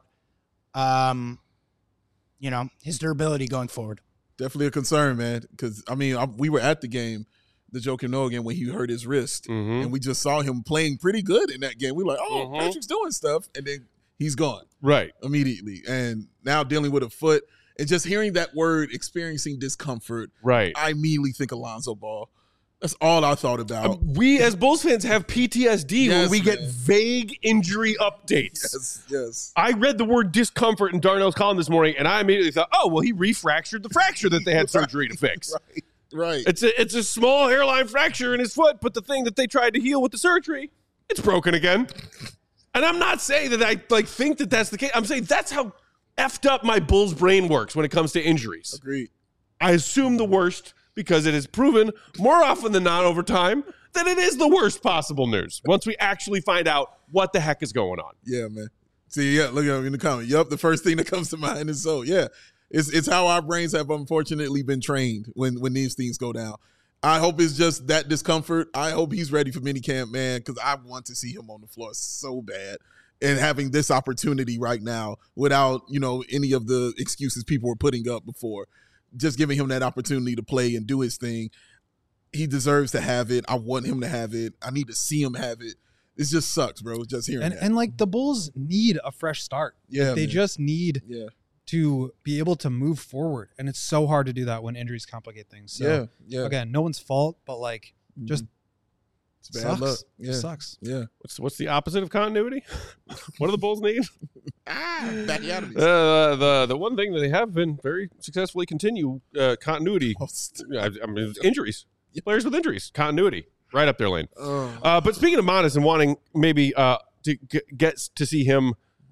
his durability going forward. Definitely a concern, man. Because, we were at the game, the Joakim Noah game, when he hurt his wrist. And we just saw him playing pretty good in that game. We were like, Patrick's doing stuff. And then he's gone. Right. Immediately. And now dealing with a foot. And just hearing that word, experiencing discomfort. Right. I immediately think Alonzo Ball. That's all I thought about. We as Bulls fans have PTSD when we get vague injury updates. Yes. I read the word discomfort in Darnell's column this morning, and I immediately thought, he refractured the fracture that they had surgery to fix. Right. It's a small hairline fracture in his foot, but the thing that they tried to heal with the surgery, it's broken again. And I'm not saying that I think that that's the case. I'm saying that's how effed up my Bulls brain works when it comes to injuries. Agreed. I assume the worst, because it is proven more often than not over time that it is the worst possible news once we actually find out what the heck is going on. Yeah, man. See, look at him in the comment. Yup, the first thing that comes to mind is it's how our brains have unfortunately been trained when these things go down. I hope it's just that discomfort. I hope he's ready for minicamp, man, because I want to see him on the floor so bad. And having this opportunity right now without, any of the excuses people were putting up before. Just giving him that opportunity to play and do his thing. He deserves to have it. I want him to have it. I need to see him have it. It just sucks, bro. Just hearing that. And the Bulls need a fresh start. Yeah, they just need to be able to move forward. And it's so hard to do that when injuries complicate things. So, again, no one's fault, but just it's bad luck. It sucks. Yeah. What's the opposite of continuity? What do the Bulls need? Backyardigans. The one thing that they have been very successfully continue continuity. Injuries. Players with injuries. Continuity. Right up their lane. But speaking of Modest and wanting maybe to get to see him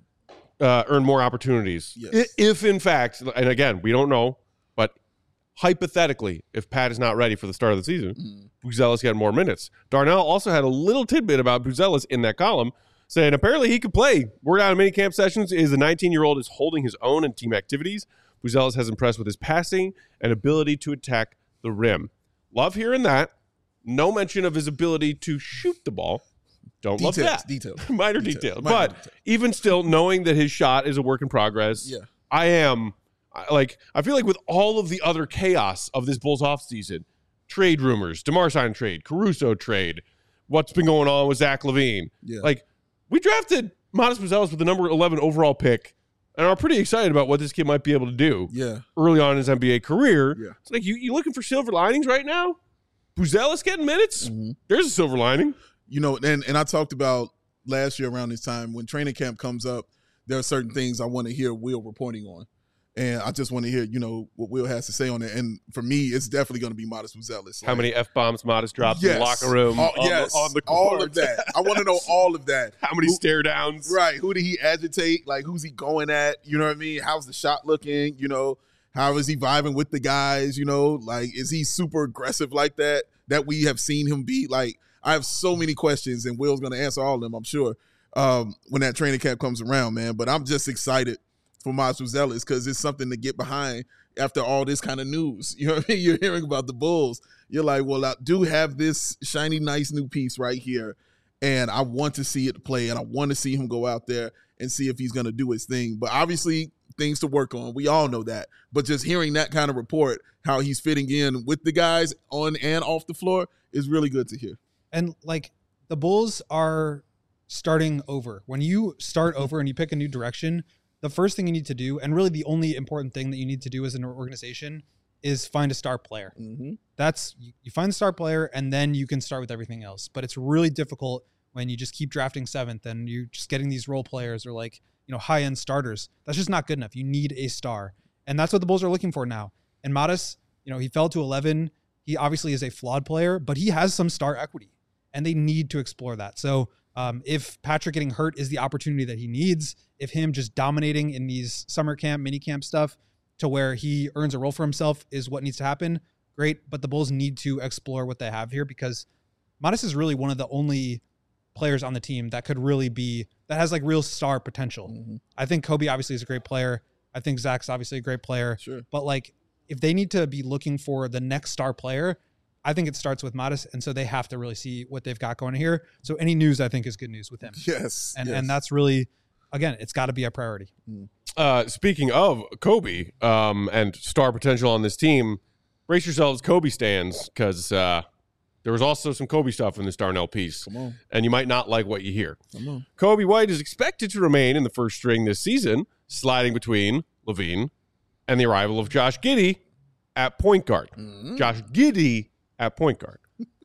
earn more opportunities, if in fact, and again, we don't know, but hypothetically, if Pat is not ready for the start of the season, Buzelis got more minutes. Darnell also had a little tidbit about Buzelis in that column, saying apparently he could play. Word out of minicamp sessions is the 19-year-old is holding his own in team activities. Buzelis has impressed with his passing and ability to attack the rim. Love hearing that. No mention of his ability to shoot the ball. Don't love that. Minor detail. But even still, knowing that his shot is a work in progress, I feel like with all of the other chaos of this Bulls offseason, trade rumors, DeMar sign trade, Caruso trade, what's been going on with Zach LaVine. We drafted Modest Buzelis with the number 11 overall pick and are pretty excited about what this kid might be able to do early on in his NBA career. It's like, you looking for silver linings right now? Buzelis getting minutes. There's a silver lining. You know, and I talked about last year around this time when training camp comes up, there are certain things I want to hear Will reporting on. And I just want to hear, you know, what Will has to say on it. And for me, it's definitely going to be Modest Buzelis. How many F-bombs Modest drops in the locker room on the court? All of that. I want to know all of that. How many stare downs? Right. Who did he agitate? Like, who's he going at? You know what I mean? How's the shot looking? You know, how is he vibing with the guys? You know, like, is he super aggressive like that we have seen him be? Like, I have so many questions, and Will's going to answer all of them, I'm sure, when that training camp comes around, man. But I'm just excited for Modest Buzelis because it's something to get behind after all this kind of news. You know what I mean? You're hearing about the Bulls. You're like, well, I do have this shiny, nice new piece right here, and I want to see it play, and I want to see him go out there and see if he's going to do his thing. But obviously, things to work on. We all know that. But just hearing that kind of report, how he's fitting in with the guys on and off the floor, is really good to hear. And, like, the Bulls are starting over. When you start over and you pick a new direction, the first thing you need to do, and really the only important thing that you need to do as an organization, is find a star player. That's, you find the star player, and then you can start with everything else. But it's really difficult when you just keep drafting seventh and you're just getting these role players or, like, you know, high-end starters. That's just not good enough. You need a star. And that's what the Bulls are looking for now. And Modest, you know, he fell to 11. He obviously is a flawed player, but he has some star equity, and they need to explore that. So if Patrick getting hurt is the opportunity that he needs, if him just dominating in these summer camp, mini camp stuff to where he earns a role for himself is what needs to happen, great. But the Bulls need to explore what they have here because Modest is really one of the only players on the team that could really be, that has like real star potential. I think Kobe obviously is a great player. I think Zach's obviously a great player. Sure. But like, if they need to be looking for the next star player, I think it starts with Modest, and so they have to really see what they've got going here. So any news, I think, is good news with him. Yes. And that's really, again, it's got to be a priority. Speaking of Kobe and star potential on this team, brace yourselves, Kobe stands, because there was also some Kobe stuff in this Darnell piece. Come on. And you might not like what you hear. Come on. Kobe White is expected to remain in the first string this season, sliding between LaVine and the arrival of Josh Giddey at point guard. Josh Giddey at point guard.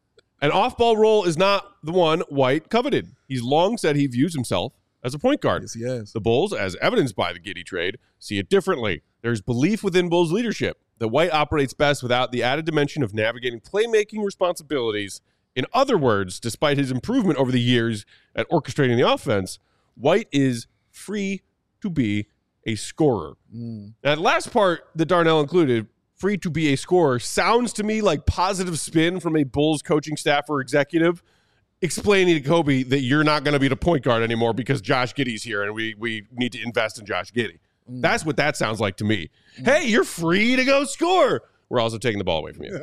An off-ball role is not the one White coveted. He's long said he views himself as a point guard. Yes, he has. The Bulls, as evidenced by the Giddey trade, see it differently. There's belief within Bulls leadership that White operates best without the added dimension of navigating playmaking responsibilities. In other words, despite his improvement over the years at orchestrating the offense, White is free to be a scorer. That last part that Darnell included, free to be a scorer, sounds to me like positive spin from a Bulls coaching staff or executive explaining to Kobe that you're not going to be the point guard anymore because Josh Giddey's here and we need to invest in Josh Giddey. That's what that sounds like to me. Hey, you're free to go score. We're also taking the ball away from you.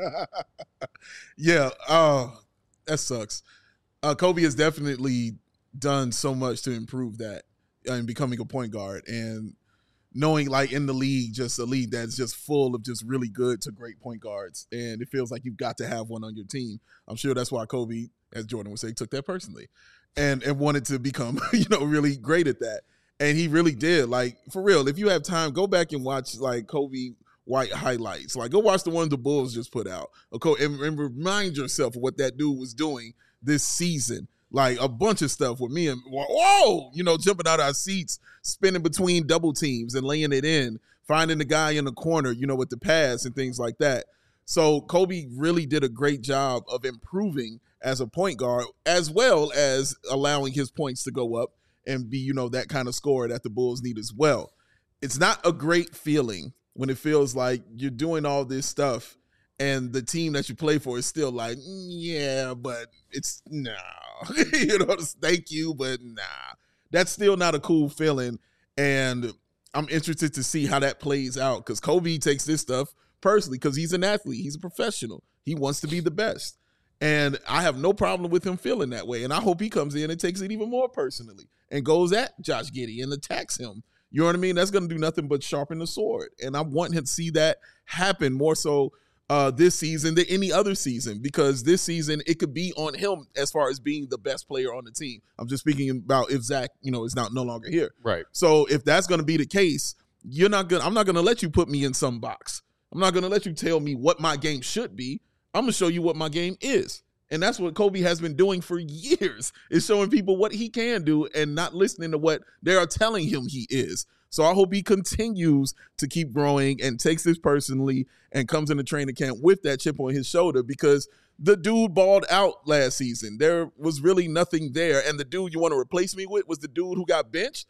Yeah. That sucks. Kobe has definitely done so much to improve that and becoming a point guard and knowing like in the league, just a league that's just full of just really good to great point guards. And it feels like you've got to have one on your team. I'm sure that's why Kobe, as Jordan would say, took that personally and wanted to become, really great at that. And he really did. Like, for real, if you have time, go back and watch like Kobe White highlights. Like, go watch the ones the Bulls just put out. And remind yourself of what that dude was doing this season. Like, a bunch of stuff with me and, jumping out of our seats, spinning between double teams and laying it in, finding the guy in the corner, with the pass and things like that. So Kobe really did a great job of improving as a point guard, as well as allowing his points to go up and be, that kind of scorer that the Bulls need as well. It's not a great feeling when it feels like you're doing all this stuff and the team that you play for is still like, yeah, but it's no. Thank you, but nah. That's still not a cool feeling. And I'm interested to see how that plays out because Kobe takes this stuff personally because he's an athlete. He's a professional. He wants to be the best. And I have no problem with him feeling that way. And I hope he comes in and takes it even more personally and goes at Josh Giddey and attacks him. You know what I mean? That's going to do nothing but sharpen the sword. And I want him to see that happen more so this season than any other season because this season it could be on him as far as being the best player on the team. I'm just speaking about if Zach, is no longer here. Right. So if that's going to be the case, I'm not going to let you put me in some box. I'm not going to let you tell me what my game should be. I'm going to show you what my game is. And that's what Kobe has been doing for years, is showing people what he can do and not listening to what they are telling him he is. So I hope he continues to keep growing and takes this personally and comes into training camp with that chip on his shoulder, because the dude balled out last season. There was really nothing there. And the dude you want to replace me with was the dude who got benched.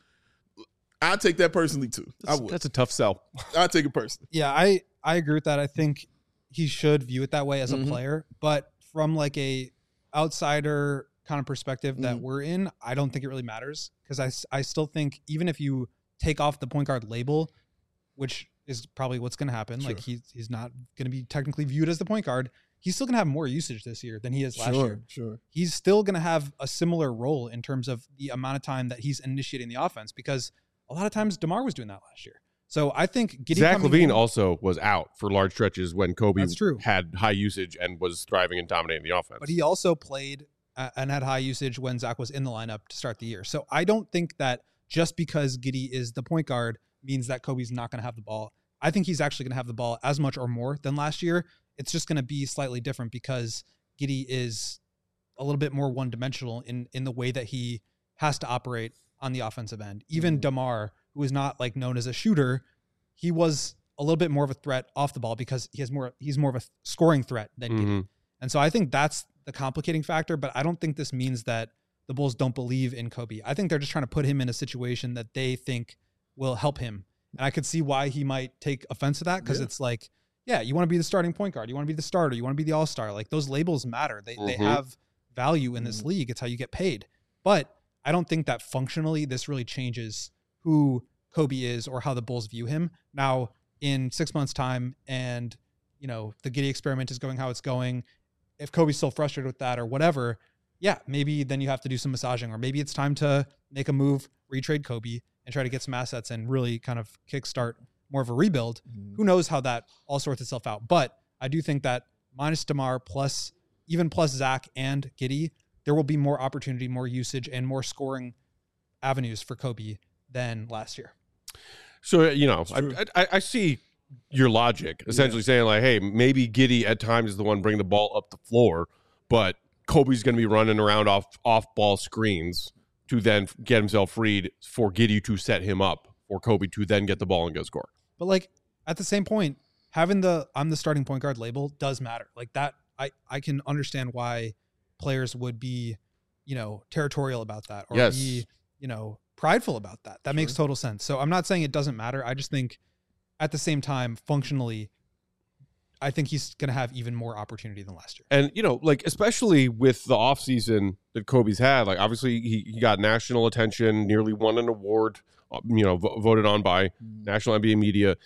I take that personally too. I would. That's a tough sell. I take it personally. Yeah, I agree with that. I think he should view it that way as a player, but from like a outsider kind of perspective that we're in, I don't think it really matters, because I still think even if you take off the point guard label, which is probably what's going to happen, like he's not going to be technically viewed as the point guard, he's still going to have more usage this year than he is last year. Sure. He's still going to have a similar role in terms of the amount of time that he's initiating the offense, because a lot of times DeMar was doing that last year. So I think Zach LaVine also was out for large stretches when Kobe true. had high usage and was thriving and dominating the offense. But he also played and had high usage when Zach was in the lineup to start the year. So I don't think that just because Giddey is the point guard means that Kobe's not going to have the ball. I think he's actually going to have the ball as much or more than last year. It's just going to be slightly different because Giddey is a little bit more one-dimensional in the way that he has to operate on the offensive end. Even DeMar, who is not like known as a shooter, he was a little bit more of a threat off the ball because he's more of a scoring threat than Giddey. And so I think that's the complicating factor, but I don't think this means that the Bulls don't believe in Kobe. I think they're just trying to put him in a situation that they think will help him. And I could see why he might take offense to that, because it's like, yeah, you want to be the starting point guard. You want to be the starter. You want to be the all-star. Like, those labels matter. They have value in this league. It's how you get paid. But I don't think that functionally this really changes who Kobe is or how the Bulls view him. Now, in 6 months' time, and the Giddey experiment is going how it's going, if Kobe's still frustrated with that or whatever, yeah, maybe then you have to do some massaging, or maybe it's time to make a move, retrade Kobe, and try to get some assets and really kind of kickstart more of a rebuild. Who knows how that all sorts itself out. But I do think that minus DeMar plus Zach and Giddey, there will be more opportunity, more usage, and more scoring avenues for Kobe than last year. So, I see your logic, essentially saying like, hey, maybe Giddey at times is the one bringing the ball up the floor, but Kobe's going to be running around off ball screens to then get himself freed for Giddey to set him up for Kobe to then get the ball and go score. But like at the same point, having I'm the starting point guard label does matter. Like that, I can understand why players would be, territorial about that, or be, prideful about that. That makes total sense. So I'm not saying it doesn't matter. I just think at the same time, functionally, I think he's going to have even more opportunity than last year. And, especially with the offseason that Kobe's had, like obviously he got national attention, nearly won an award, voted on by national NBA media.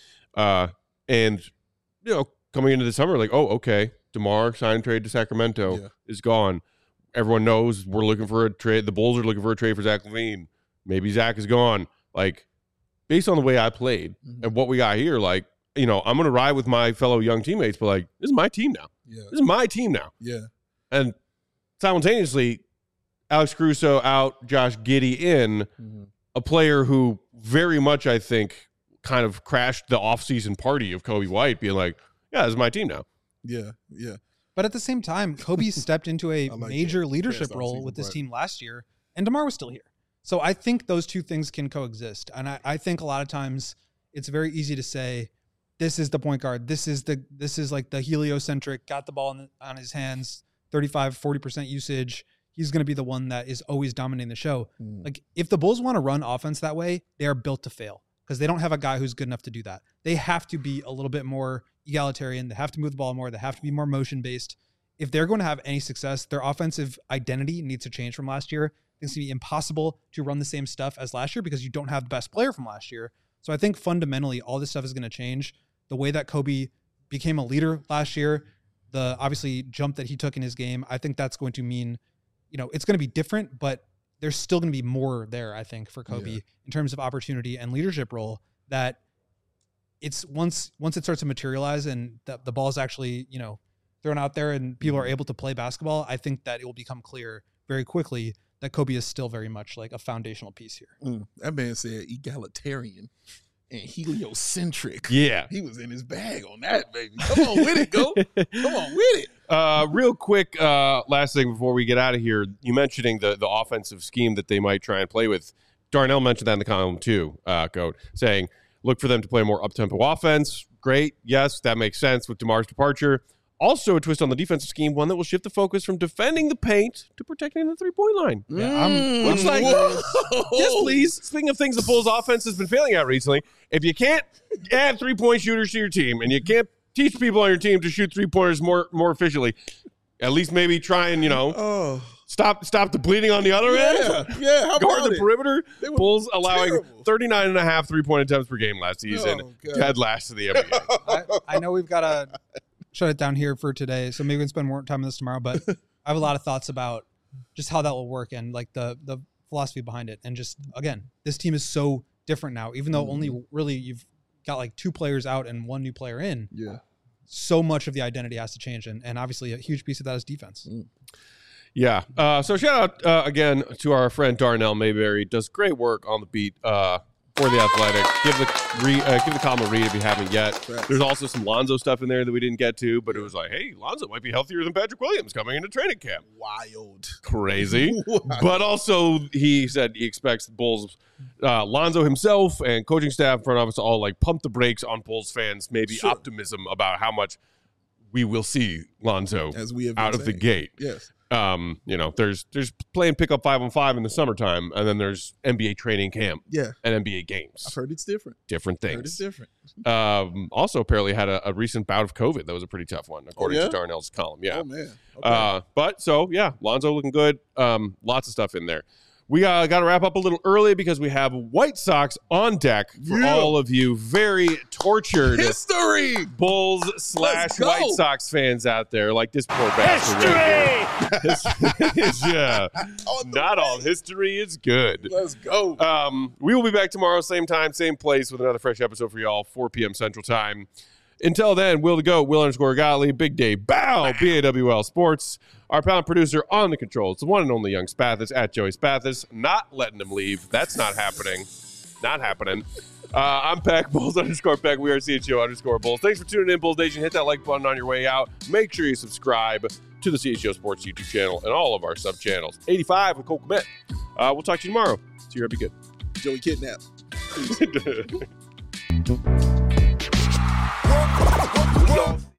And, coming into the summer, like, oh, okay, DeMar sign trade to Sacramento is gone. Everyone knows we're looking for a trade. The Bulls are looking for a trade for Zach LaVine. Maybe Zach is gone. Like, based on the way I played and what we got here, like, I'm going to ride with my fellow young teammates, but like, this is my team now. Yeah. This is my team now. Yeah. And simultaneously, Alex Caruso out, Josh Giddey in, a player who very much, I think, kind of crashed the offseason party of Kobe White being like, yeah, this is my team now. Yeah. Yeah. But at the same time, Kobe stepped into a major leadership role with this team last year, and DeMar was still here. So I think those two things can coexist. And I think a lot of times it's very easy to say, this is the point guard. This is like the heliocentric, got the ball on his hands, 35, 40% usage. He's going to be the one that is always dominating the show. Like, if the Bulls want to run offense that way, they are built to fail, because they don't have a guy who's good enough to do that. They have to be a little bit more egalitarian. They have to move the ball more. They have to be more motion-based. If they're going to have any success, their offensive identity needs to change from last year. It's going to be impossible to run the same stuff as last year because you don't have the best player from last year. So I think fundamentally all this stuff is going to change. The way that Kobe became a leader last year, the obviously jump that he took in his game, I think that's going to mean, it's going to be different, but there's still going to be more there, I think, for Kobe in terms of opportunity and leadership role, that it's once it starts to materialize and the ball is actually, thrown out there and people are able to play basketball, I think that it will become clear very quickly that Kobe is still very much like a foundational piece here. That man said egalitarian. and heliocentric. Yeah. He was in his bag on that, baby. Come on with it, go. Come on with it. Real quick, last thing before we get out of here, you mentioning the offensive scheme that they might try and play with. Darnell mentioned that in the column too, Goat, saying look for them to play more up-tempo offense. Great. Yes, that makes sense with DeMar's departure. Also a twist on the defensive scheme, one that will shift the focus from defending the paint to protecting the three-point line. Looks like, yes, please. Speaking of things the Bulls offense has been failing at recently, if you can't add three-point shooters to your team and you can't teach people on your team to shoot three-pointers more efficiently, at least maybe try and, stop the bleeding on the other end. Yeah, how Guard about the perimeter. terrible. Bulls allowing 39.5 3-point attempts per game last season. Dead last to the NBA. I know we've got to shut it down here for today, so maybe we can spend more time on this tomorrow, but I have a lot of thoughts about just how that will work and like the philosophy behind it. And just, again, this team is so different now, even though only really you've got like 2 players out and 1 new player in. Yeah. So much of the identity has to change. And obviously a huge piece of that is defense. Yeah. So shout out again to our friend Darnell Mayberry. Does great work on the beat for the Athletic. Give the column a read if you haven't yet. Right. There's also some Lonzo stuff in there that we didn't get to, but it was like, hey, Lonzo might be healthier than Patrick Williams coming into training camp. Wild. Crazy. But also he said he expects the Bulls, Lonzo himself and coaching staff, front office to all like pump the brakes on Bulls fans, maybe optimism about how much we will see Lonzo as we have out of the gate. Yes. There's playing pickup 5-on-5 in the summertime, and then there's NBA training camp, and NBA games. I've heard it's different. Different things. Heard it's different. Also, apparently had a recent bout of COVID. That was a pretty tough one, according to Darnell's column. Yeah. Oh man. Okay. But so yeah, Lonzo looking good. Lots of stuff in there. We got to wrap up a little early because we have White Sox on deck for all of you very tortured history Bulls / White Sox fans out there. Like this poor bastard. History! Yeah. Not all history is good. Let's go. We will be back tomorrow, same time, same place, with another fresh episode for y'all, 4 p.m. Central Time. Until then, Will to go, Will_Gottlieb, Big Dave Bow, BAWL Sports. Our pound producer on the controls, the one and only Young Spathis at Joey Spathis. Not letting him leave. That's not happening. Not happening. I'm Peck, Bulls_Peck. We are CHGO_Bulls. Thanks for tuning in, Bulls Nation. Hit that like button on your way out. Make sure you subscribe to the CHGO Sports YouTube channel and all of our sub channels. 85 with Cole Kmet. We'll talk to you tomorrow. See you. Be good. Joey Kidnap. Peace.